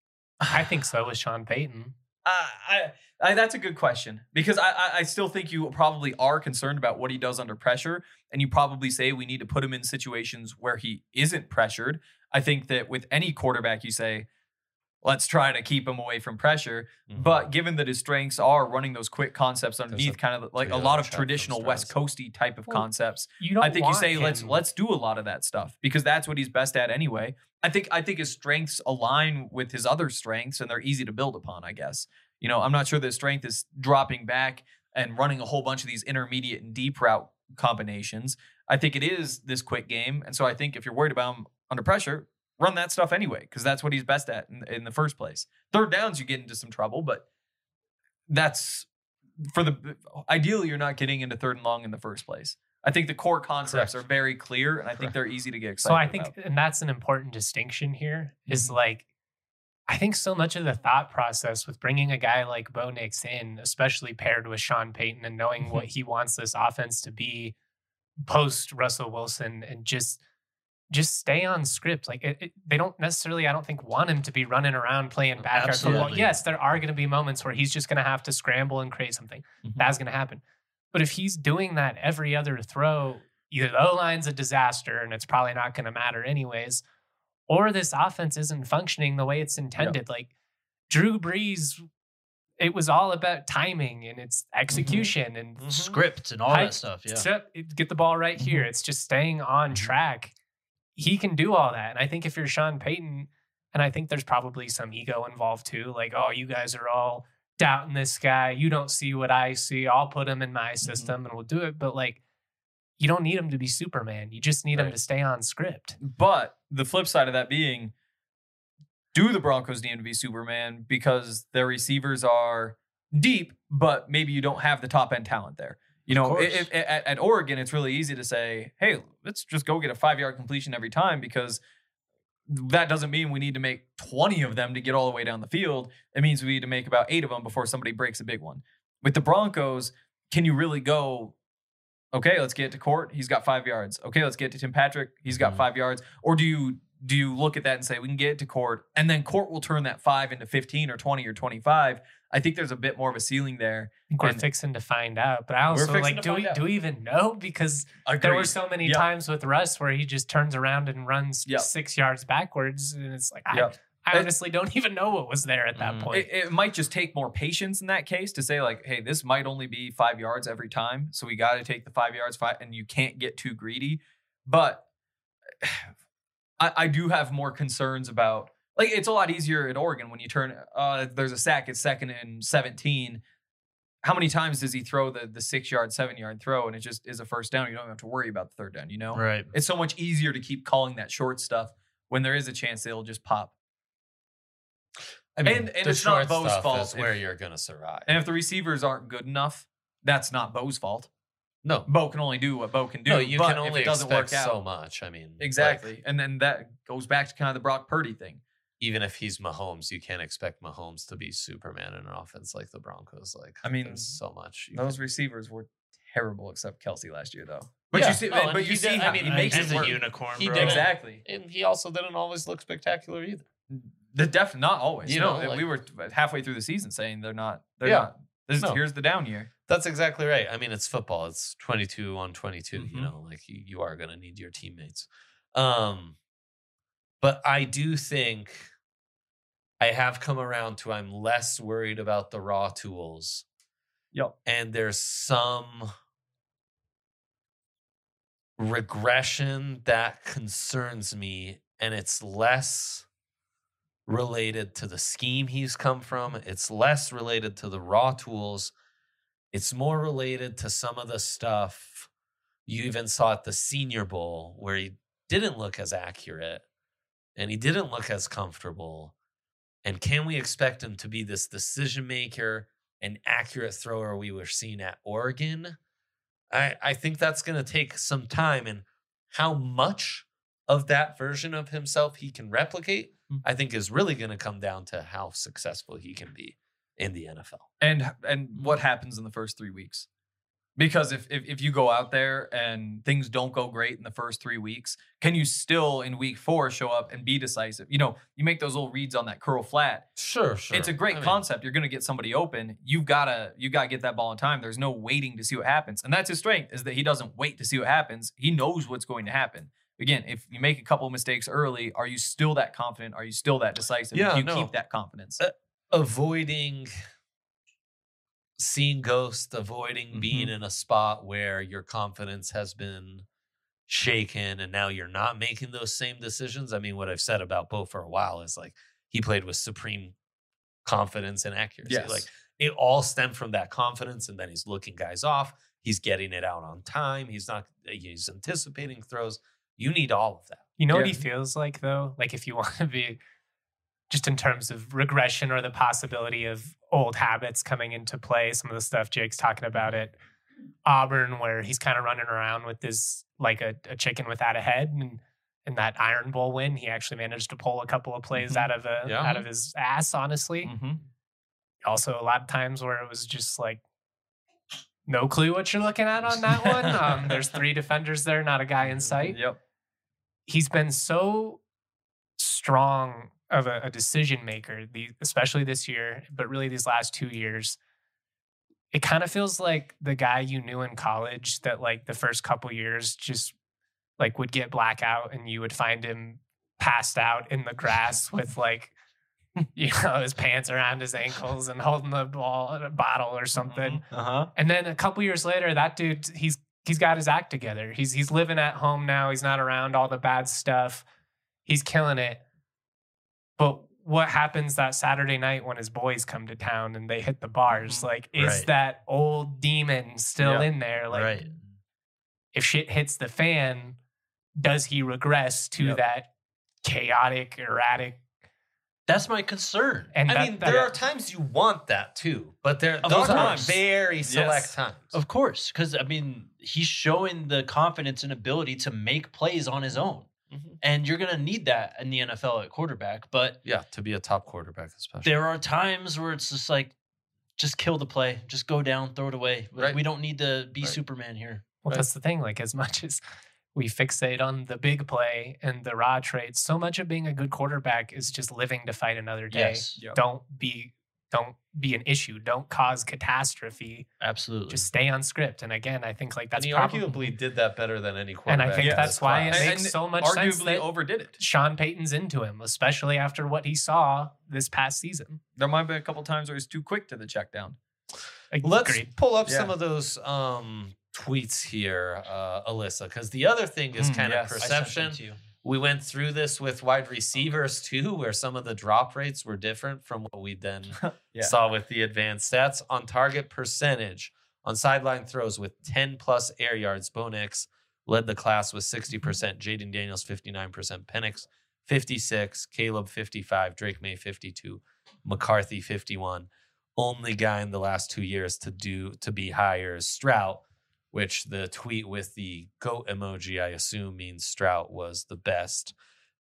I think so with Sean Payton. That's a good question because I still think you probably are concerned about what he does under pressure, and you probably say we need to put him in situations where he isn't pressured. I think that with any quarterback, you say, let's try to keep him away from pressure. But given that his strengths are running those quick concepts underneath, kind of like a lot of traditional West Coasty type of concepts, I think you say let's do a lot of that stuff because that's what he's best at anyway. I think his strengths align with his other strengths and they're easy to build upon, I guess. I'm not sure that his strength is dropping back and running a whole bunch of these intermediate and deep route combinations. I think it is this quick game. And so I think if you're worried about him under pressure, run that stuff anyway, because that's what he's best at in the first place. Third downs, you get into some trouble, but that's ideally you're not getting into third and long in the first place. I think the core concepts are very clear, and I think they're easy to get excited about. So I think, and that's an important distinction here, is like, I think so much of the thought process with bringing a guy like Bo Nix in, especially paired with Sean Payton and knowing what he wants this offense to be post Russell Wilson and just stay on script. Like they don't necessarily, I don't think, want him to be running around playing backyard football. Yes, there are going to be moments where he's just going to have to scramble and create something. That's going to happen. But if he's doing that every other throw, either the O-line's a disaster and it's probably not going to matter anyways, or this offense isn't functioning the way it's intended. Like Drew Brees, it was all about timing and its execution and script and all that stuff. Yeah, get the ball right here. It's just staying on track. He can do all that. And I think if you're Sean Payton, and I think there's probably some ego involved too, like, oh, you guys are all doubting this guy. You don't see what I see. I'll put him in my system and we'll do it. But like, you don't need him to be Superman. You just need him to stay on script. But the flip side of that being, do the Broncos need him to be Superman because their receivers are deep, but maybe you don't have the top end talent there? At Oregon, it's really easy to say, hey, let's just go get a 5-yard completion every time because that doesn't mean we need to make 20 of them to get all the way down the field. It means we need to make about 8 of them before somebody breaks a big one. With the Broncos, can you really go, okay, let's get to Court. He's got 5 yards. Okay, let's get to Tim Patrick. He's got 5 yards. Or do you look at that and say, we can get it to Court, and then Court will turn that 5 into 15 or 20 or 25? I think there's a bit more of a ceiling there. I think we're fixing to find out. But I also do we even know? Because there were so many times with Russ where he just turns around and runs 6 yards backwards. And it's like, I honestly don't even know what was there at that point. It might just take more patience in that case to say like, hey, this might only be 5 yards every time. So we got to take the 5 yards, and you can't get too greedy. But I do have more concerns about, like, it's a lot easier at Oregon when you turn, there's a sack, it's 2nd and 17. How many times does he throw the 6-yard, 7-yard throw and it just is a first down? You don't have to worry about the third down, Right. It's so much easier to keep calling that short stuff when there is a chance they'll just pop. I mean, and it's not Bo's fault. Is where you're going to survive. And if the receivers aren't good enough, that's not Bo's fault. No. Bo can only do what Bo can do. No, you but can only if it doesn't expect work out, so much. I mean, exactly. And then that goes back to kind of the Brock Purdy thing. even if he's Mahomes, you can't expect Mahomes to be Superman in an offense like the Broncos. Like, I mean, there's so much. Those receivers were terrible except Kelsey last year, though. But Yeah. you see, Oh, and but he you see did- how I mean, he makes He's it a work. unicorn, He bro. did. Exactly. And he also didn't always look spectacular either. Not always. You No, know, like- we were halfway through the season saying they're not. They're Yeah. not. No. Here's the down year. That's exactly right. I mean, it's football. It's 22 on 22. You Mhm. know, like you are going to need your teammates. But I do think I have come around to I'm less worried about the raw tools. Yep. And there's some regression that concerns me, and it's less related to the scheme he's come from. It's less related to the raw tools. It's more related to some of the stuff you even saw at the Senior Bowl where he didn't look as accurate and he didn't look as comfortable. And can we expect him to be this decision maker and accurate thrower we were seeing at Oregon? I think that's going to take some time, and how much of that version of himself he can replicate, I think is really going to come down to how successful he can be in the NFL. And what happens in the first 3 weeks? Because if you go out there and things don't go great in the first 3 weeks, can you still in week 4 show up and be decisive? You know, you make those little reads on that curl flat. Sure. It's a great concept. You're going to get somebody open. You gotta get that ball in time. There's no waiting to see what happens, and that's his strength, is that he doesn't wait to see what happens. He knows what's going to happen. Again, if you make a couple of mistakes early, are you still that confident? Are you still that decisive? Yeah, Do you no. keep that confidence? Avoiding seeing ghosts, avoiding being in a spot where your confidence has been shaken and now you're not making those same decisions. I mean, what I've said about Bo for a while is like he played with supreme confidence and accuracy. Yes. Like it all stemmed from that confidence, and then he's looking guys off. He's getting it out on time. He's anticipating throws. You need all of that. You know what Yeah. he feels like, though? Like, if you want to be just in terms of regression or the possibility of old habits coming into play, some of the stuff Jake's talking about at Auburn, where he's kind of running around with this, like a chicken without a head. And in that Iron Bowl win, he actually managed to pull a couple of plays out of his ass, honestly. Also, a lot of times where it was just like, no clue what you're looking at on that one. There's 3 defenders there, not a guy in sight. Yep. He's been so strong of a decision maker, especially this year, but really these last 2 years. It kind of feels like the guy you knew in college that like the first couple years just like would get blackout and you would find him passed out in the grass with like, you know, his pants around his ankles and holding the bottle or something. And then a couple years later, that dude, he's got his act together. He's living at home now. He's not around all the bad stuff. He's killing it. But what happens that Saturday night when his boys come to town and they hit the bars? Like, is Right. that old demon still in there? Like, Right. if shit hits the fan, does he regress to that chaotic, erratic? That's my concern. And I mean, there are times you want that too, but those are course. very select Yes. times. Of course, because I mean, he's showing the confidence and ability to make plays on his own, Mhm. and you're gonna need that in the NFL at quarterback. But Yeah, to be a top quarterback, especially. there are times where it's just like, just kill the play, just go down, throw it away. Like, Right. we don't need to be Right. Superman here. Well, Right. that's the thing. Like, as much as we fixate on the big play and the raw traits, so much of being a good quarterback is just living to fight another day. Yes. Yep. Don't be an issue. Don't cause catastrophe. Absolutely. Just stay on script. And again, I think like that's and he probably, arguably did that better than any and quarterback. I think Yes. that's why it class. makes And so much sense arguably that overdid it. Sean Payton's into him, especially after what he saw this past season. There might have been a couple times where he's too quick to the check down. Let's Agreed. pull up Yeah. some of those tweets here, Alyssa, because the other thing is kind yes. of I I sent them perception. to you. We went through this with wide receivers too, where some of the drop rates were different from what we then Yeah. saw with the advanced stats. On target percentage, on sideline throws with 10 plus air yards, Bo Nix led the class with 60%, Jaden Daniels 59%, Penix 56, Caleb 55, Drake May 52, McCarthy 51. Only guy in the last 2 years to be higher is Stroud, which the tweet with the goat emoji, I assume, means Stroud was the best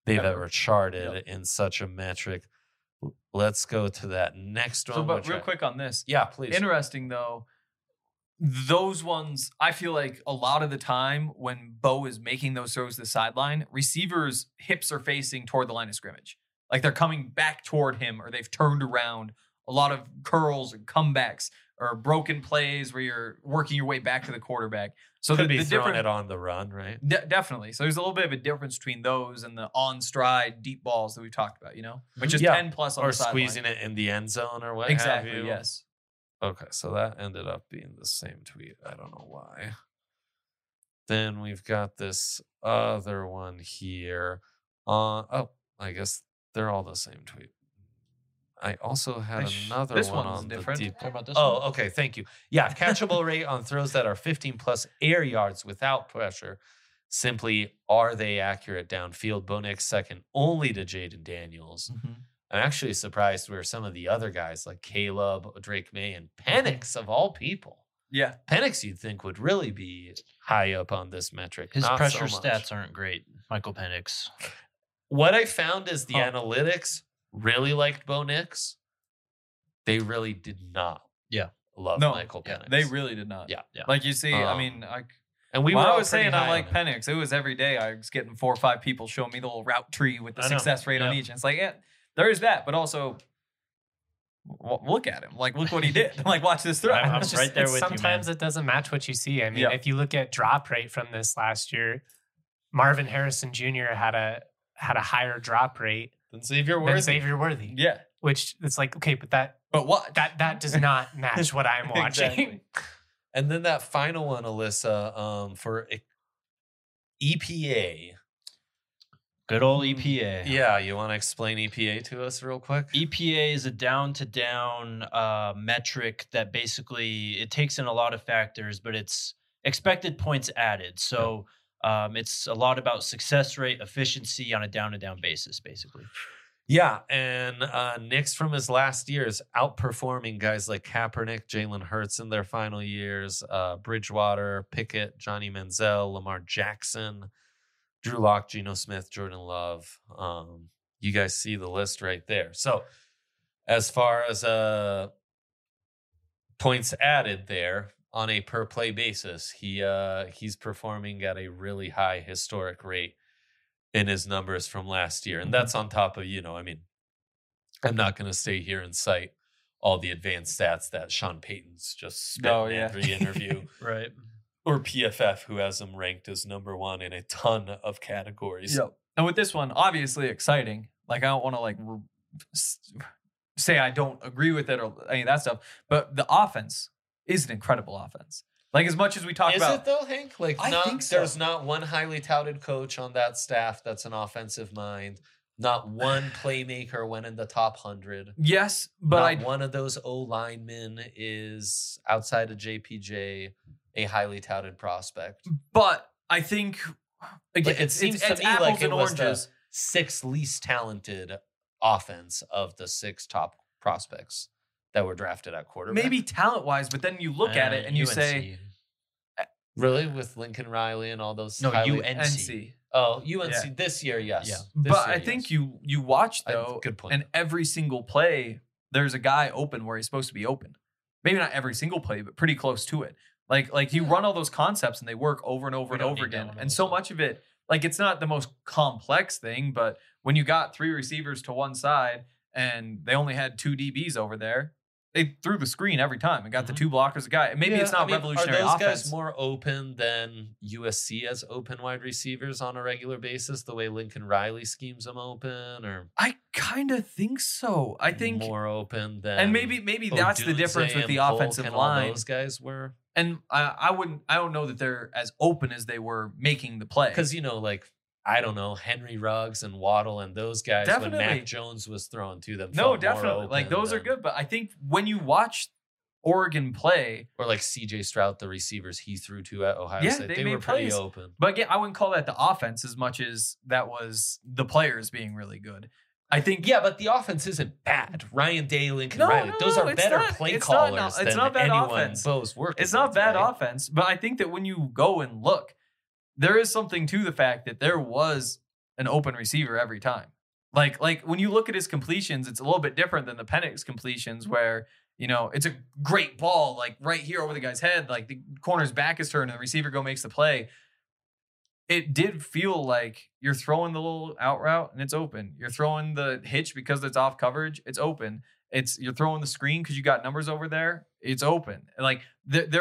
they've Ever. ever charted Yep. in such a metric. Let's go to that next one. So, but which real quick on this. yeah, please. Interesting though. Those ones, I feel like a lot of the time when Bo is making those throws to the sideline, receivers' hips are facing toward the line of scrimmage. Like they're coming back toward him or they've turned around. A lot of curls and comebacks or broken plays where you're working your way back to the quarterback. So Could be the throwing different, it on the run, right? definitely. So there's a little bit of a difference between those and the on stride deep balls that we've talked about, which is Yeah. 10 plus on Or the sideline. squeezing it in the end zone or what Exactly. have you. Yes. Okay, so that ended up being the same tweet. I don't know why. Then we've got this other one here. I guess they're all the same tweet. I also had another this one one's on different. the deep. Talk about this Oh, one? okay. Thank you. Yeah, catchable rate on throws that are 15 plus air yards without pressure. Simply, are they accurate downfield? Bo Nix second only to Jaden Daniels. I'm actually surprised where some of the other guys like Caleb, Drake May, and Penix of all people. Yeah. Penix, you'd think, would really be high up on this metric. His Not pressure so much. stats aren't great. Michael Penix. What I found is the Huh. analytics really liked Bo Nix. They really did not. Yeah. Love No, Michael yeah, Penix. they really did not. Yeah. Yeah. Like you see, I Um, mean, And we when were I all was pretty saying I high like on him. Penix, it was every day I was getting 4 or 5 people showing me the little route tree with the I know. success rate on Yeah. each. And it's like, yeah, there is that, but also look at him. Like, look what he did. Like, watch this throw. I'm It's right there with you, man. sometimes it doesn't match what you see. I mean, Yeah. if you look at drop rate from this last year, Marvin Harrison Jr. had a higher drop rate Then Xavier than Worthy. Xavier Worthy. Yeah. Which it's like, okay, but that But does not match what I'm watching. Exactly. And then that final one, Alyssa, for EPA. Good old EPA. Yeah, you want to explain EPA to us real quick? EPA is a down-to-down metric that basically it takes in a lot of factors, but it's expected points added. So it's a lot about success rate, efficiency on a down-to-down basis, basically. Yeah, and Nix from his last years outperforming guys like Kaepernick, Jalen Hurts in their final years, Bridgewater, Pickett, Johnny Manziel, Lamar Jackson, Drew Lock, Geno Smith, Jordan Love. You guys see the list right there. So as far as points added there on a per play basis, he's performing at a really high historic rate in his numbers from last year. And that's on top of, I mean, I'm not going to stay here and cite all the advanced stats that Sean Payton's just spent in every interview. Right. Or PFF, who has him ranked as number one in a ton of categories. Yep. And with this one, obviously exciting. Like, I don't want to say I don't agree with it or any of that stuff, but the offense is an incredible offense. Like, as much as we talk Is about it though, Hank? Like, I think so. There's not one highly touted coach on that staff that's an offensive mind. Not one playmaker went in the top 100. yes, but Not one of those O linemen is outside of JPJ a highly touted prospect. But I think again, Like, it seems to it's me apples like it and was the oranges. sixth least talented offense of the 6 top prospects that were drafted at quarterback. Maybe talent wise, but then you look at it and you say Really, with Lincoln Riley and all those. No, highly- UNC. NC. Oh, UNC Yeah. this year, yes. Yeah. This But year, I think yes. you watch though, Good point. and every single play, there's a guy open where he's supposed to be open. Maybe not every single play, but pretty close to it. Like you run all those concepts and they work over and over We and don't over need again. that one, And so also. much of it, like it's not the most complex thing, but when you got 3 receivers to one side and they only had 2 DBs over there, they threw the screen every time and got the 2 blockers a guy. And maybe Yeah, it's not I mean, revolutionary Are those offense. guys more open than USC as open wide receivers on a regular basis? The way Lincoln Riley schemes them open, or I kind of think so. I think, more open than and maybe that's the difference with the offensive and line. All those guys were And I don't know that they're as open as they were making the play. because like I don't know Henry Ruggs and Waddle and those guys when Definitely. Mac Jones was thrown to them. No, felt more definitely. Like open those are than- good, but I think when you watch Oregon play, Or like CJ Stroud, the receivers he threw to at Ohio Yeah, State, they they made were pretty plays. open. but again, I wouldn't call that the offense as much as that was the players being really good. I think Yeah, but the offense isn't bad. Ryan Day, Lincoln No, Riley, no, those no, are it's better not- play it's not- callers it's than not bad anyone offense. Bo's working. it's not with, bad right? offense, but I think that when you go and look, there is something to the fact that there was an open receiver every time. Like when you look at his completions, it's a little bit different than the Penix completions where, it's a great ball, like right here over the guy's head, like the corner's back is turned and the receiver makes the play. It did feel like you're throwing the little out route and it's open. You're throwing the hitch because it's off coverage. It's open. You're throwing the screen because you got numbers over there. It's open. Like we had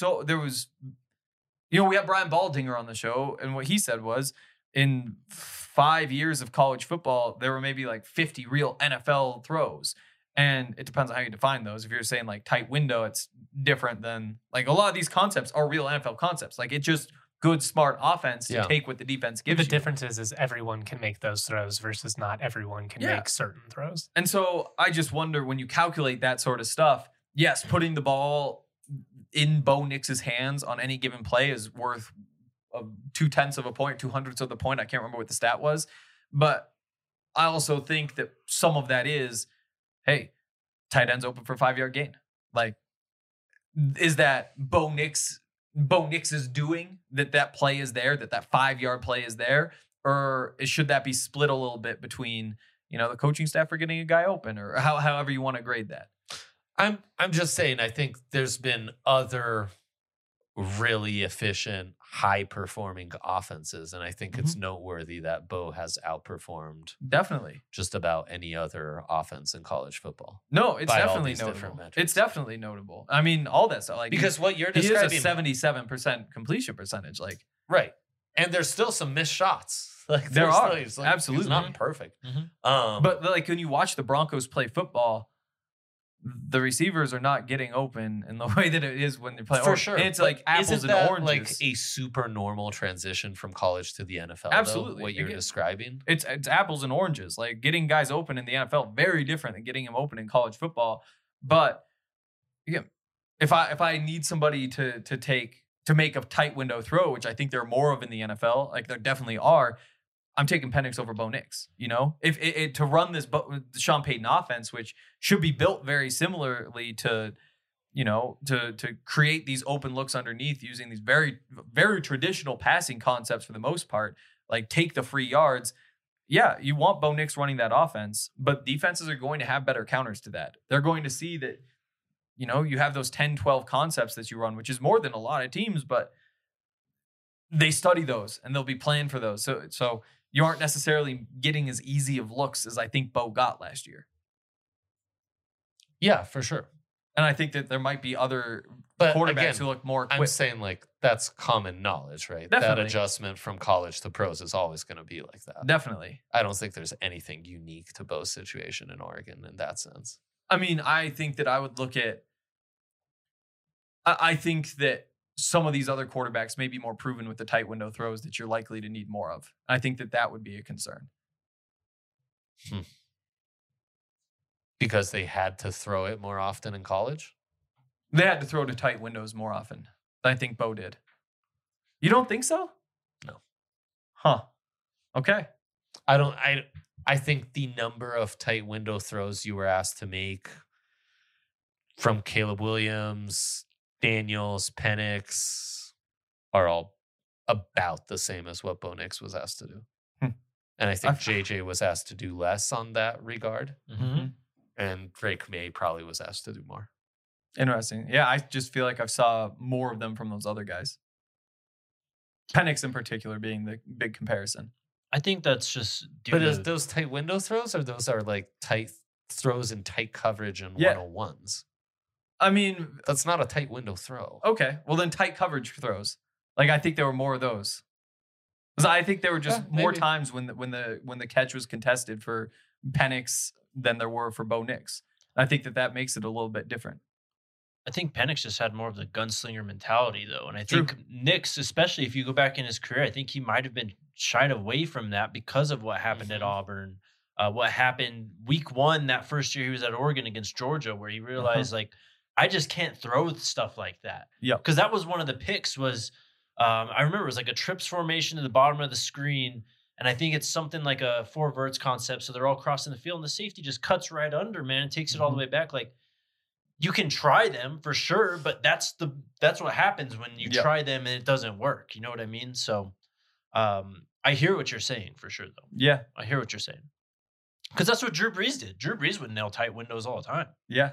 Brian Baldinger on the show, and what he said was in 5 years of college football, there were maybe like 50 real NFL throws. And it depends on how you define those. If you're saying like tight window, it's different than like a lot of these concepts are real NFL concepts. Like it's just good, smart offense to take what the defense gives you. The difference is everyone can make those throws versus not everyone can make certain throws. And so I just wonder when you calculate that sort of stuff, yes, putting the ball in Bo Nix's hands on any given play is worth 0.2 of a point, 0.02 of the point. I can't remember what the stat was. But I also think that some of that is, hey, tight end's open for a 5-yard gain. Like, is that Bo Nix's doing that play is there, that 5-yard play is there? Or should that be split a little bit between, the coaching staff for getting a guy open, or however you want to grade that? I'm just saying, I think there's been other really efficient, high-performing offenses, and I think it's noteworthy that Bo has outperformed definitely just about any other offense in college football. No, it's definitely notable. It's definitely notable. I mean, all that stuff. Like because what you're describing, he is a 77% completion percentage. Like right, and there's still some missed shots. Like there are absolutely it's not perfect. But like when you watch the Broncos play football, the receivers are not getting open in the way that it is when they play. For sure. It's like apples and oranges. Like a super normal transition from college to the NFL. Absolutely. Though, what you're describing. It's apples and oranges. Like getting guys open in the NFL, very different than getting them open in college football. But again, if I need somebody to make a tight window throw, which I think there are more of in the NFL, like there definitely are, I'm taking Penix over Bo Nix, if to run this Sean Payton offense, which should be built very similarly to, to create these open looks underneath using these very, very traditional passing concepts for the most part, like take the free yards. Yeah, you want Bo Nix running that offense, but defenses are going to have better counters to that. They're going to see that, you have those 10, 12 concepts that you run, which is more than a lot of teams, but they study those and they'll be playing for those. So you aren't necessarily getting as easy of looks as I think Bo got last year. Yeah, for sure. And I think that there might be other quarterbacks who look more equipped. I'm saying like that's common knowledge, right? Definitely. That adjustment from college to pros is always going to be like that. Definitely. I don't think there's anything unique to Bo's situation in Oregon in that sense. I mean, I think that I would look at I think that some of these other quarterbacks may be more proven with the tight window throws that you're likely to need more of. I think that would be a concern. Because they had to throw it more often in college? They had to throw to tight windows more often. I think Bo did. You don't think so? No. Huh. Okay. I think the number of tight window throws you were asked to make from Caleb Williams, Daniels, Penix are all about the same as what Bo Nix was asked to do. And I think JJ was asked to do less on that regard. And Drake May probably was asked to do more. Interesting. Yeah, I just feel like I saw more of them from those other guys. Penix in particular being the big comparison. I think that's just But is those tight window throws, or those are like tight throws in tight coverage and 101s? I mean, that's not a tight window throw. Okay, well then tight coverage throws. Like I think there were more of those. Because I think there were just more times when the catch was contested for Penix than there were for Bo Nix. I think that makes it a little bit different. I think Penix just had more of the gunslinger mentality, though. And I think Nix, especially if you go back in his career, I think he might have been shied away from that because of what happened at Auburn. What happened week 1 that first year he was at Oregon against Georgia, where he realized, like, I just can't throw stuff like that. Yeah. Because that was one of the picks was, I remember it was like a trips formation to the bottom of the screen. And I think it's something like a 4 verts concept. So they're all crossing the field and the safety just cuts right under, man, and takes it all the way back. Like, you can try them for sure, but that's what happens when you try them and it doesn't work. You know what I mean? So I I hear what you're saying for sure, though. Yeah. I hear what you're saying. Because that's what Drew Brees did. Drew Brees would nail tight windows all the time. Yeah.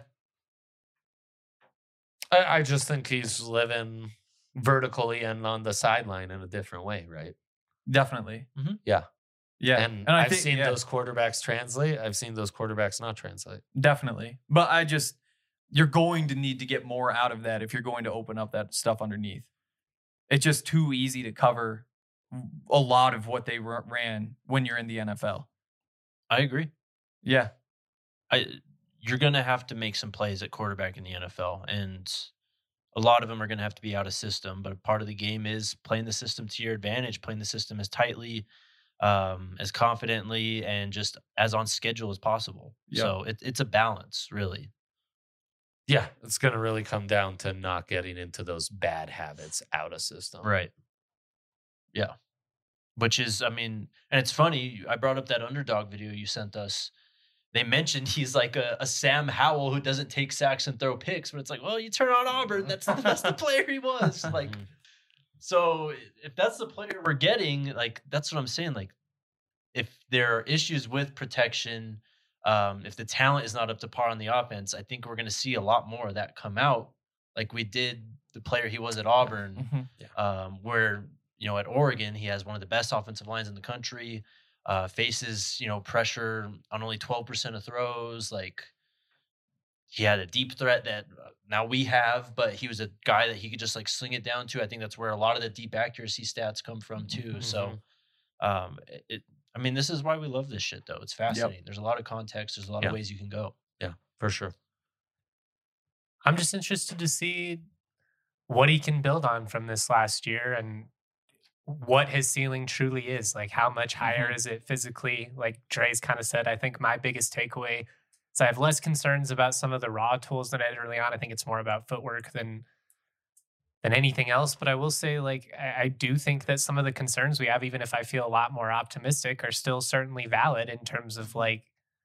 I just think he's living vertically and on the sideline in a different way, right? Definitely. Mhm. Yeah. Yeah. And I I've think, seen those quarterbacks translate. I've seen those quarterbacks not translate. Definitely. But you're going to need to get more out of that if you're going to open up that stuff underneath. It's just too easy to cover a lot of what they ran when you're in the NFL. I agree. Yeah. You're going to have to make some plays at quarterback in the NFL, and a lot of them are going to have to be out of system. But a part of the game is playing the system to your advantage, playing the system as tightly, as confidently, and just as on schedule as possible. Yeah. So it's a balance, really. Yeah, it's going to really come down to not getting into those bad habits out of system. Right. Yeah. Which is, I mean, and it's funny, I brought up that underdog video you sent us. They mentioned he's like a Sam Howell who doesn't take sacks and throw picks, but it's like, well, you turn on Auburn, that's the player he was. Like, so if that's the player we're getting, like, that's what I'm saying. Like, if there are issues with protection, if the talent is not up to par on the offense, I think we're going to see a lot more of that come out, like we did the player he was at Auburn, where, you know, at Oregon, he has one of the best offensive lines in the country, faces, you know, pressure on only 12% of throws. Like, he had a deep threat that now we have, but he was a guy that he could just like sling it down to. I think that's where a lot of the deep accuracy stats come from too. So, I mean, this is why we love this shit, though. It's fascinating. There's a lot of context. There's a lot of ways you can go. Yeah, for sure. I'm just interested to see what he can build on from this last year and what his ceiling truly is. Like, how much higher is it physically? Like Dre's kind of said, I think my biggest takeaway is I have less concerns about some of the raw tools than I did early on. I think it's more about footwork than anything else. But I will say, like, I do think that some of the concerns we have, even if I feel a lot more optimistic, are still certainly valid in terms of, like,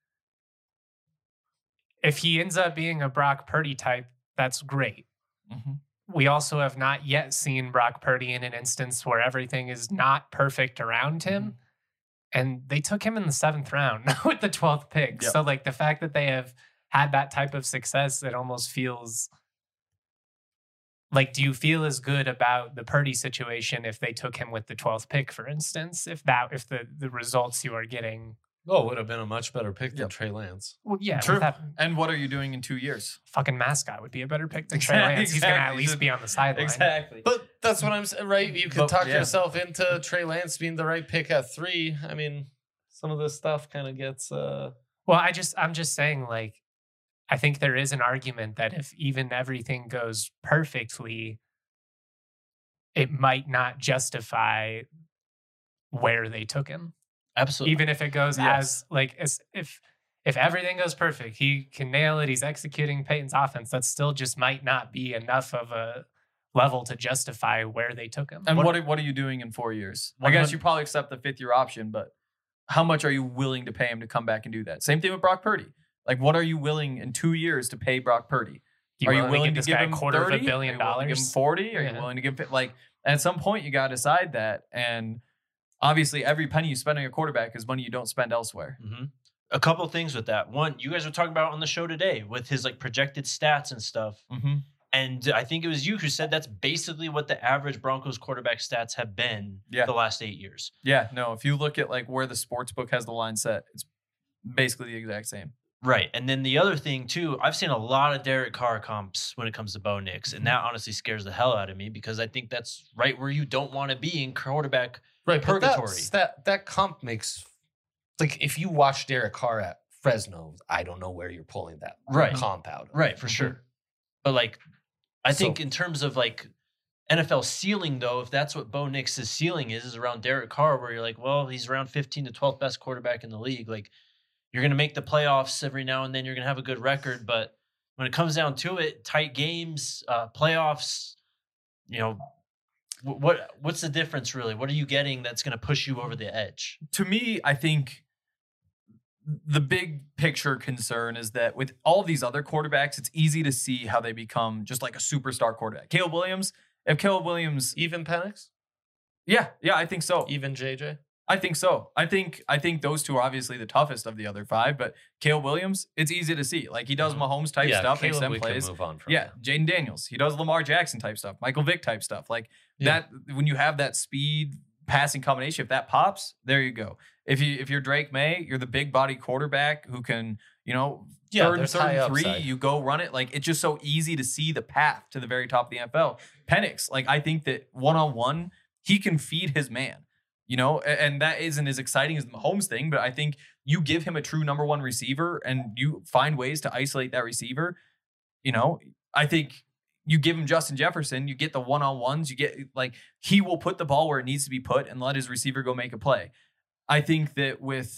if he ends up being a Brock Purdy type, that's great. We also have not yet seen Brock Purdy in an instance where everything is not perfect around him. And they took him in the 7th round with the 12th pick. So, like, the fact that they have had that type of success, it almost feels like, do you feel as good about the Purdy situation if they took him with the 12th pick, for instance, if the results you are getting? Oh, it would have been a much better pick than Trey Lance. Well, yeah. True. And what are you doing in 2 years? Fucking mascot would be a better pick than Trey Lance. He's going to at least be on the sideline. Exactly. But that's what I'm saying, right? You can talk yourself into Trey Lance being the right pick at 3. I mean, some of this stuff kind of gets... Well, I'm just saying, like, I think there is an argument that if even everything goes perfectly, it might not justify where they took him. Absolutely. Even if it goes as if everything goes perfect, he can nail it. He's executing Peyton's offense. That still just might not be enough of a level to justify where they took him. And what are you doing in 4 years? I guess you probably accept the 5th-year option, but how much are you willing to pay him to come back and do that? Same thing with Brock Purdy. Like, what are you willing in 2 years to pay Brock Purdy? Are you willing to give him $30 billion? Are you willing to give him $40? Are you willing to give, like, at some point you got to decide that. And obviously, every penny you spend on your quarterback is money you don't spend elsewhere. A couple of things with that. One, you guys were talking about on the show today with his, like, projected stats and stuff. And I think it was you who said that's basically what the average Broncos quarterback stats have been the last 8 years. Yeah, no, if you look at, like, where the sports book has the line set, it's basically the exact same. Right. And then the other thing, too, I've seen a lot of Derek Carr comps when it comes to Bo Nix. And that honestly scares the hell out of me because I think that's right where you don't want to be in quarterback purgatory. That comp makes, like, if you watch Derek Carr at Fresno, I don't know where you're pulling that comp out of. Right, for sure. But, like, I think in terms of, like, NFL ceiling, though, if that's what Bo Nix's ceiling is around Derek Carr, where you're like, well, he's around 15 to 12th best quarterback in the league. Like, you're going to make the playoffs every now and then. You're going to have a good record. But when it comes down to it, tight games, playoffs, you know, what's the difference, really? What are you getting that's going to push you over the edge? To me, I think the big picture concern is that with all these other quarterbacks, it's easy to see how they become just like a superstar quarterback. Caleb Williams, Even Penix? Yeah, I think so. Even JJ? I think so. I think those two are obviously the toughest of the other five, but Caleb Williams, it's easy to see. Like he does Mahomes type stuff, makes them we plays. can move on from. Yeah, Jaden Daniels, he does Lamar Jackson type stuff, Michael Vick type stuff. Like that, when you have that speed passing combination, if that pops, there you go. If you're Drake May, you're the big body quarterback who can, third and three, upside. you go run it. Like it's just so easy to see the path to the very top of the NFL. Penix, like I think that one-on-one, he can feed his man. And that isn't as exciting as the Mahomes thing, but I think you give him a true number one receiver and you find ways to isolate that receiver. I think you give him Justin Jefferson, you get the one-on-ones, you get like he will put the ball where it needs to be put and let his receiver go make a play. I think that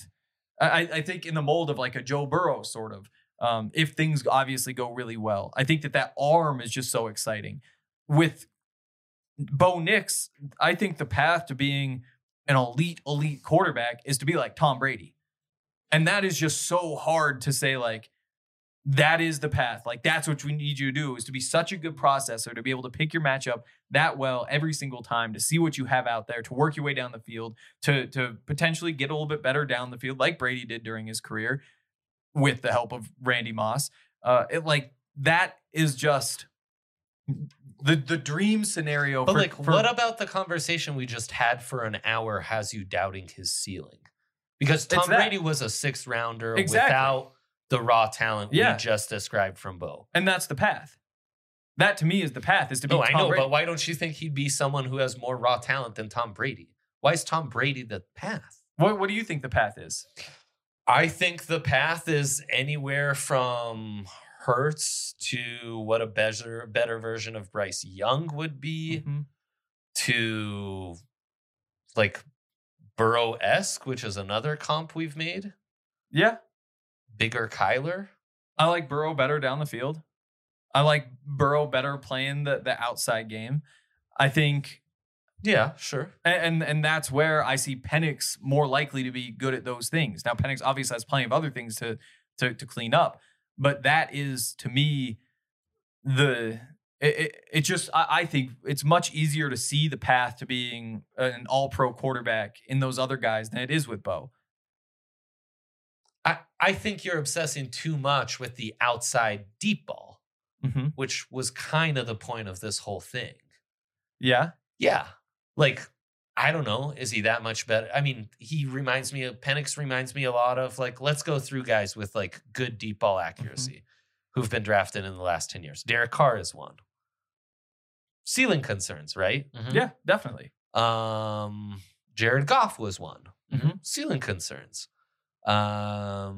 I think in the mold of like a Joe Burrow sort of, if things obviously go really well, I think that arm is just so exciting. With Bo Nix, I think the path to being an elite quarterback is to be like Tom Brady. And that is just so hard to say, like, that is the path. Like, that's what we need you to do, is to be such a good processor, to be able to pick your matchup that well every single time, to see what you have out there, to work your way down the field, to potentially get a little bit better down the field like Brady did during his career with the help of Randy Moss. That is just the dream scenario. But what about the conversation we just had for an hour has you doubting his ceiling? Because Tom Brady was a 6th rounder without the raw talent we just described from Bo. And that's the path. That to me is the path, is to be Tom Brady. But why don't you think he'd be someone who has more raw talent than Tom Brady? Why is Tom Brady the path? What do you think the path is? I think the path is anywhere from Hurts to what a better version of Bryce Young would be, to like Burrow-esque, which is another comp we've made. Yeah. Bigger Kyler. I like Burrow better down the field. I like Burrow better playing the outside game. I think. Yeah, sure. And that's where I see Penix more likely to be good at those things. Now, Penix obviously has plenty of other things to clean up, but that is, to me, I think it's much easier to see the path to being an all-pro quarterback in those other guys than it is with Bo. I think you're obsessing too much with the outside deep ball, which was kind of the point of this whole thing. Yeah? Yeah. Like, I don't know. Is he that much better? I mean, Penix reminds me a lot of, like, let's go through guys with, like, good deep ball accuracy who've been drafted in the last 10 years. Derek Carr is one. Ceiling concerns, right? Yeah, definitely. Jared Goff was one. Mm-hmm. Ceiling concerns. I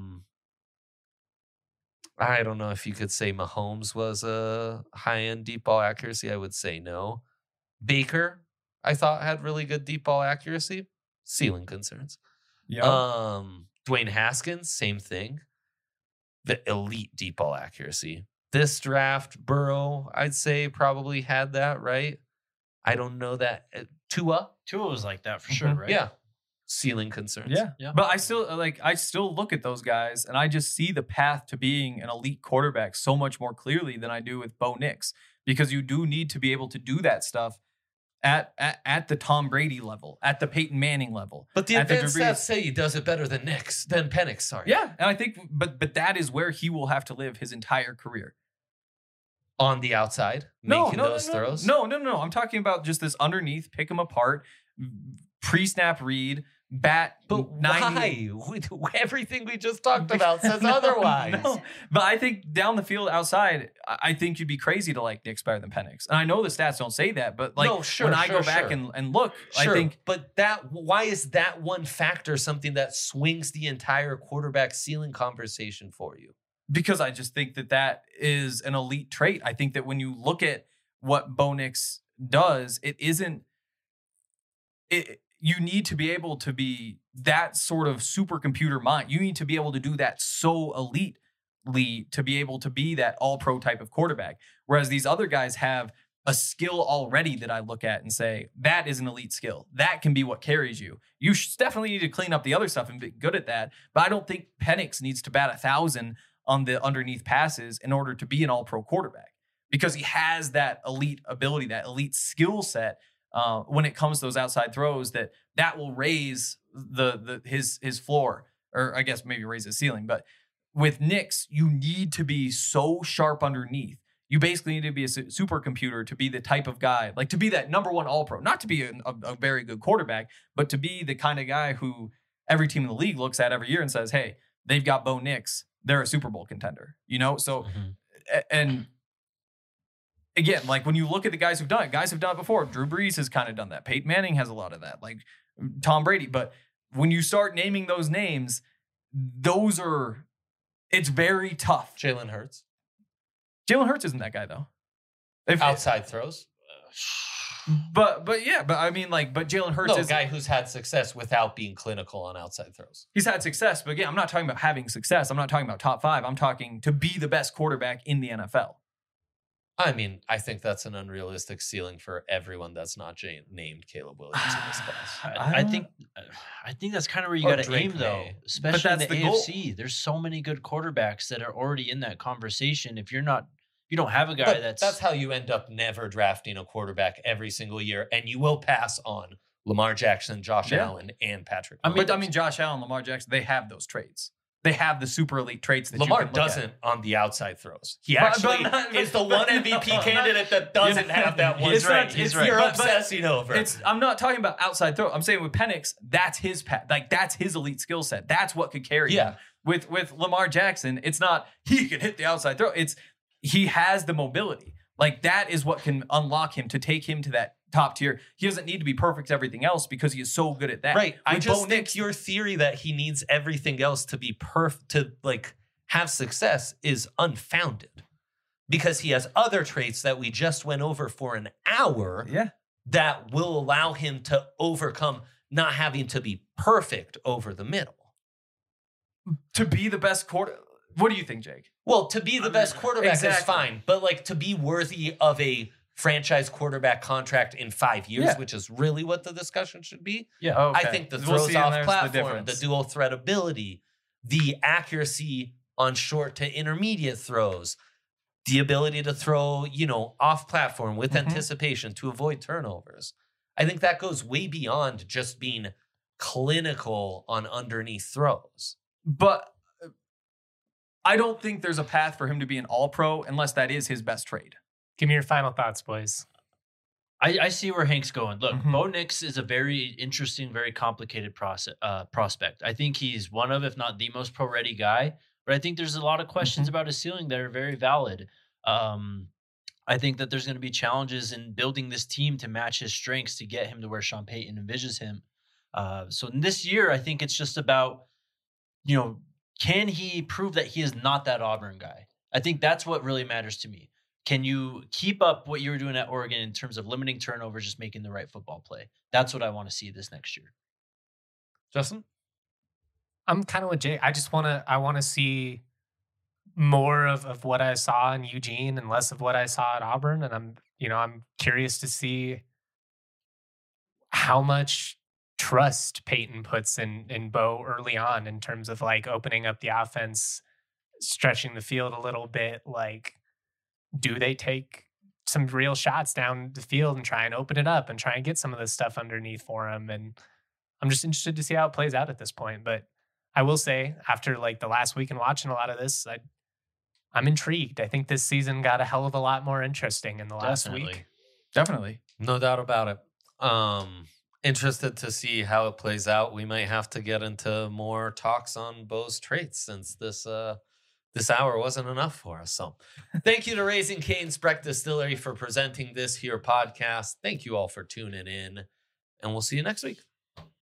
don't know if you could say Mahomes was a high-end deep ball accuracy. I would say no. Baker, I thought, had really good deep ball accuracy. Ceiling concerns. Yeah. Dwayne Haskins, same thing. The elite deep ball accuracy. This draft, Burrow, I'd say probably had that, right? I don't know that. Tua was like that for sure, right? Yeah. Ceiling concerns. Yeah. But I still look at those guys and I just see the path to being an elite quarterback so much more clearly than I do with Bo Nix, because you do need to be able to do that stuff at the Tom Brady level, at the Peyton Manning level. But the advanced stats say he does it better than Penix. Sorry. Yeah, and I think, but that is where he will have to live his entire career. On the outside, making those throws? No. I'm talking about just this underneath, pick them apart, pre-snap read, bat. But 90. Why? Everything we just talked about says otherwise. No. But I think down the field outside, I think you'd be crazy to like Nix better than Penix. And I know the stats don't say that, but like when I go back and look, I think. But why is that one factor something that swings the entire quarterback ceiling conversation for you? Because I just think that is an elite trait. I think that when you look at what Bo Nix does, you need to be able to be that sort of supercomputer mind. You need to be able to do that so elitely to be able to be that all-pro type of quarterback. Whereas these other guys have a skill already that I look at and say, that is an elite skill. That can be what carries you. You definitely need to clean up the other stuff and be good at that. But I don't think Penix needs to bat 1,000 on the underneath passes in order to be an all-pro quarterback, because he has that elite ability, that elite skill set when it comes to those outside throws that will raise his floor, or I guess maybe raise his ceiling. But with Nix, you need to be so sharp underneath. You basically need to be a supercomputer to be the type of guy, like to be that number one all-pro, not to be a very good quarterback, but to be the kind of guy who every team in the league looks at every year and says, hey, they've got Bo Nix. They're a Super Bowl contender, you know? So, and again, like when you look at the guys who've done it, guys have done it before. Drew Brees has kind of done that. Peyton Manning has a lot of that, like Tom Brady. But when you start naming those names, it's very tough. Jalen Hurts. Jalen Hurts isn't that guy though. Outside throws. But I mean, like, but Jalen Hurts is a guy who's had success without being clinical on outside throws. He's had success, but again, I'm not talking about having success. I'm not talking about top 5. I'm talking to be the best quarterback in the NFL. I mean, I think that's an unrealistic ceiling for everyone that's not named Caleb Williams in this class. I think that's kind of where you got to aim, though, especially in the AFC. Goal. There's so many good quarterbacks that are already in that conversation. If you don't have a guy that's how you end up never drafting a quarterback every single year, and you will pass on Lamar Jackson, Josh Allen, and Patrick. I mean, Josh Allen, Lamar Jackson, they have those traits. They have the super elite traits that Lamar you can look doesn't at. On the outside throws. He actually is the one MVP candidate that doesn't have that one trait. You're obsessing over. I'm not talking about outside throw. I'm saying with Penix, that's his that's his elite skill set. That's what could carry him. With Lamar Jackson, it's not he can hit the outside throw. It's he has the mobility. Like that is what can unlock him to take him to that top tier. He doesn't need to be perfect at everything else because he is so good at that. Right. I just think your theory that he needs everything else to be perfect to like have success is unfounded because he has other traits that we just went over for an hour that will allow him to overcome not having to be perfect over the middle. To be the best quarter. What do you think, Jake? Well, to be the best quarterback is fine, but like to be worthy of a franchise quarterback contract in 5 years, which is really what the discussion should be. Yeah, okay. I think the throws off platform, the dual threat ability, the accuracy on short to intermediate throws, the ability to throw, off platform with anticipation to avoid turnovers. I think that goes way beyond just being clinical on underneath throws. But I don't think there's a path for him to be an all-pro unless that is his best trade. Give me your final thoughts, boys. I see where Hank's going. Look, Bo Nix is a very interesting, very complicated prospect. I think he's one of, if not the most pro-ready guy. But I think there's a lot of questions about his ceiling that are very valid. I think that there's going to be challenges in building this team to match his strengths to get him to where Sean Payton envisions him. So in this year, I think it's just about, can he prove that he is not that Auburn guy? I think that's what really matters to me. Can you keep up what you were doing at Oregon in terms of limiting turnovers, just making the right football play? That's what I want to see this next year. Justin? I'm kind of with Jay. I want to see more of what I saw in Eugene and less of what I saw at Auburn. And I'm curious to see how much trust Peyton puts in Bo early on in terms of like opening up the offense, stretching the field a little bit. Like, do they take some real shots down the field and try and open it up and try and get some of this stuff underneath for him? And I'm just interested to see how it plays out at this point. But I will say, after like the last week and watching a lot of this, I'm intrigued. I think this season got a hell of a lot more interesting in the last week. Definitely. No doubt about it. Interested to see how it plays out. We might have to get into more talks on Bo's traits since this hour wasn't enough for us. So thank you to Raising Cane's Breck Distillery for presenting this here podcast. Thank you all for tuning in, and we'll see you next week.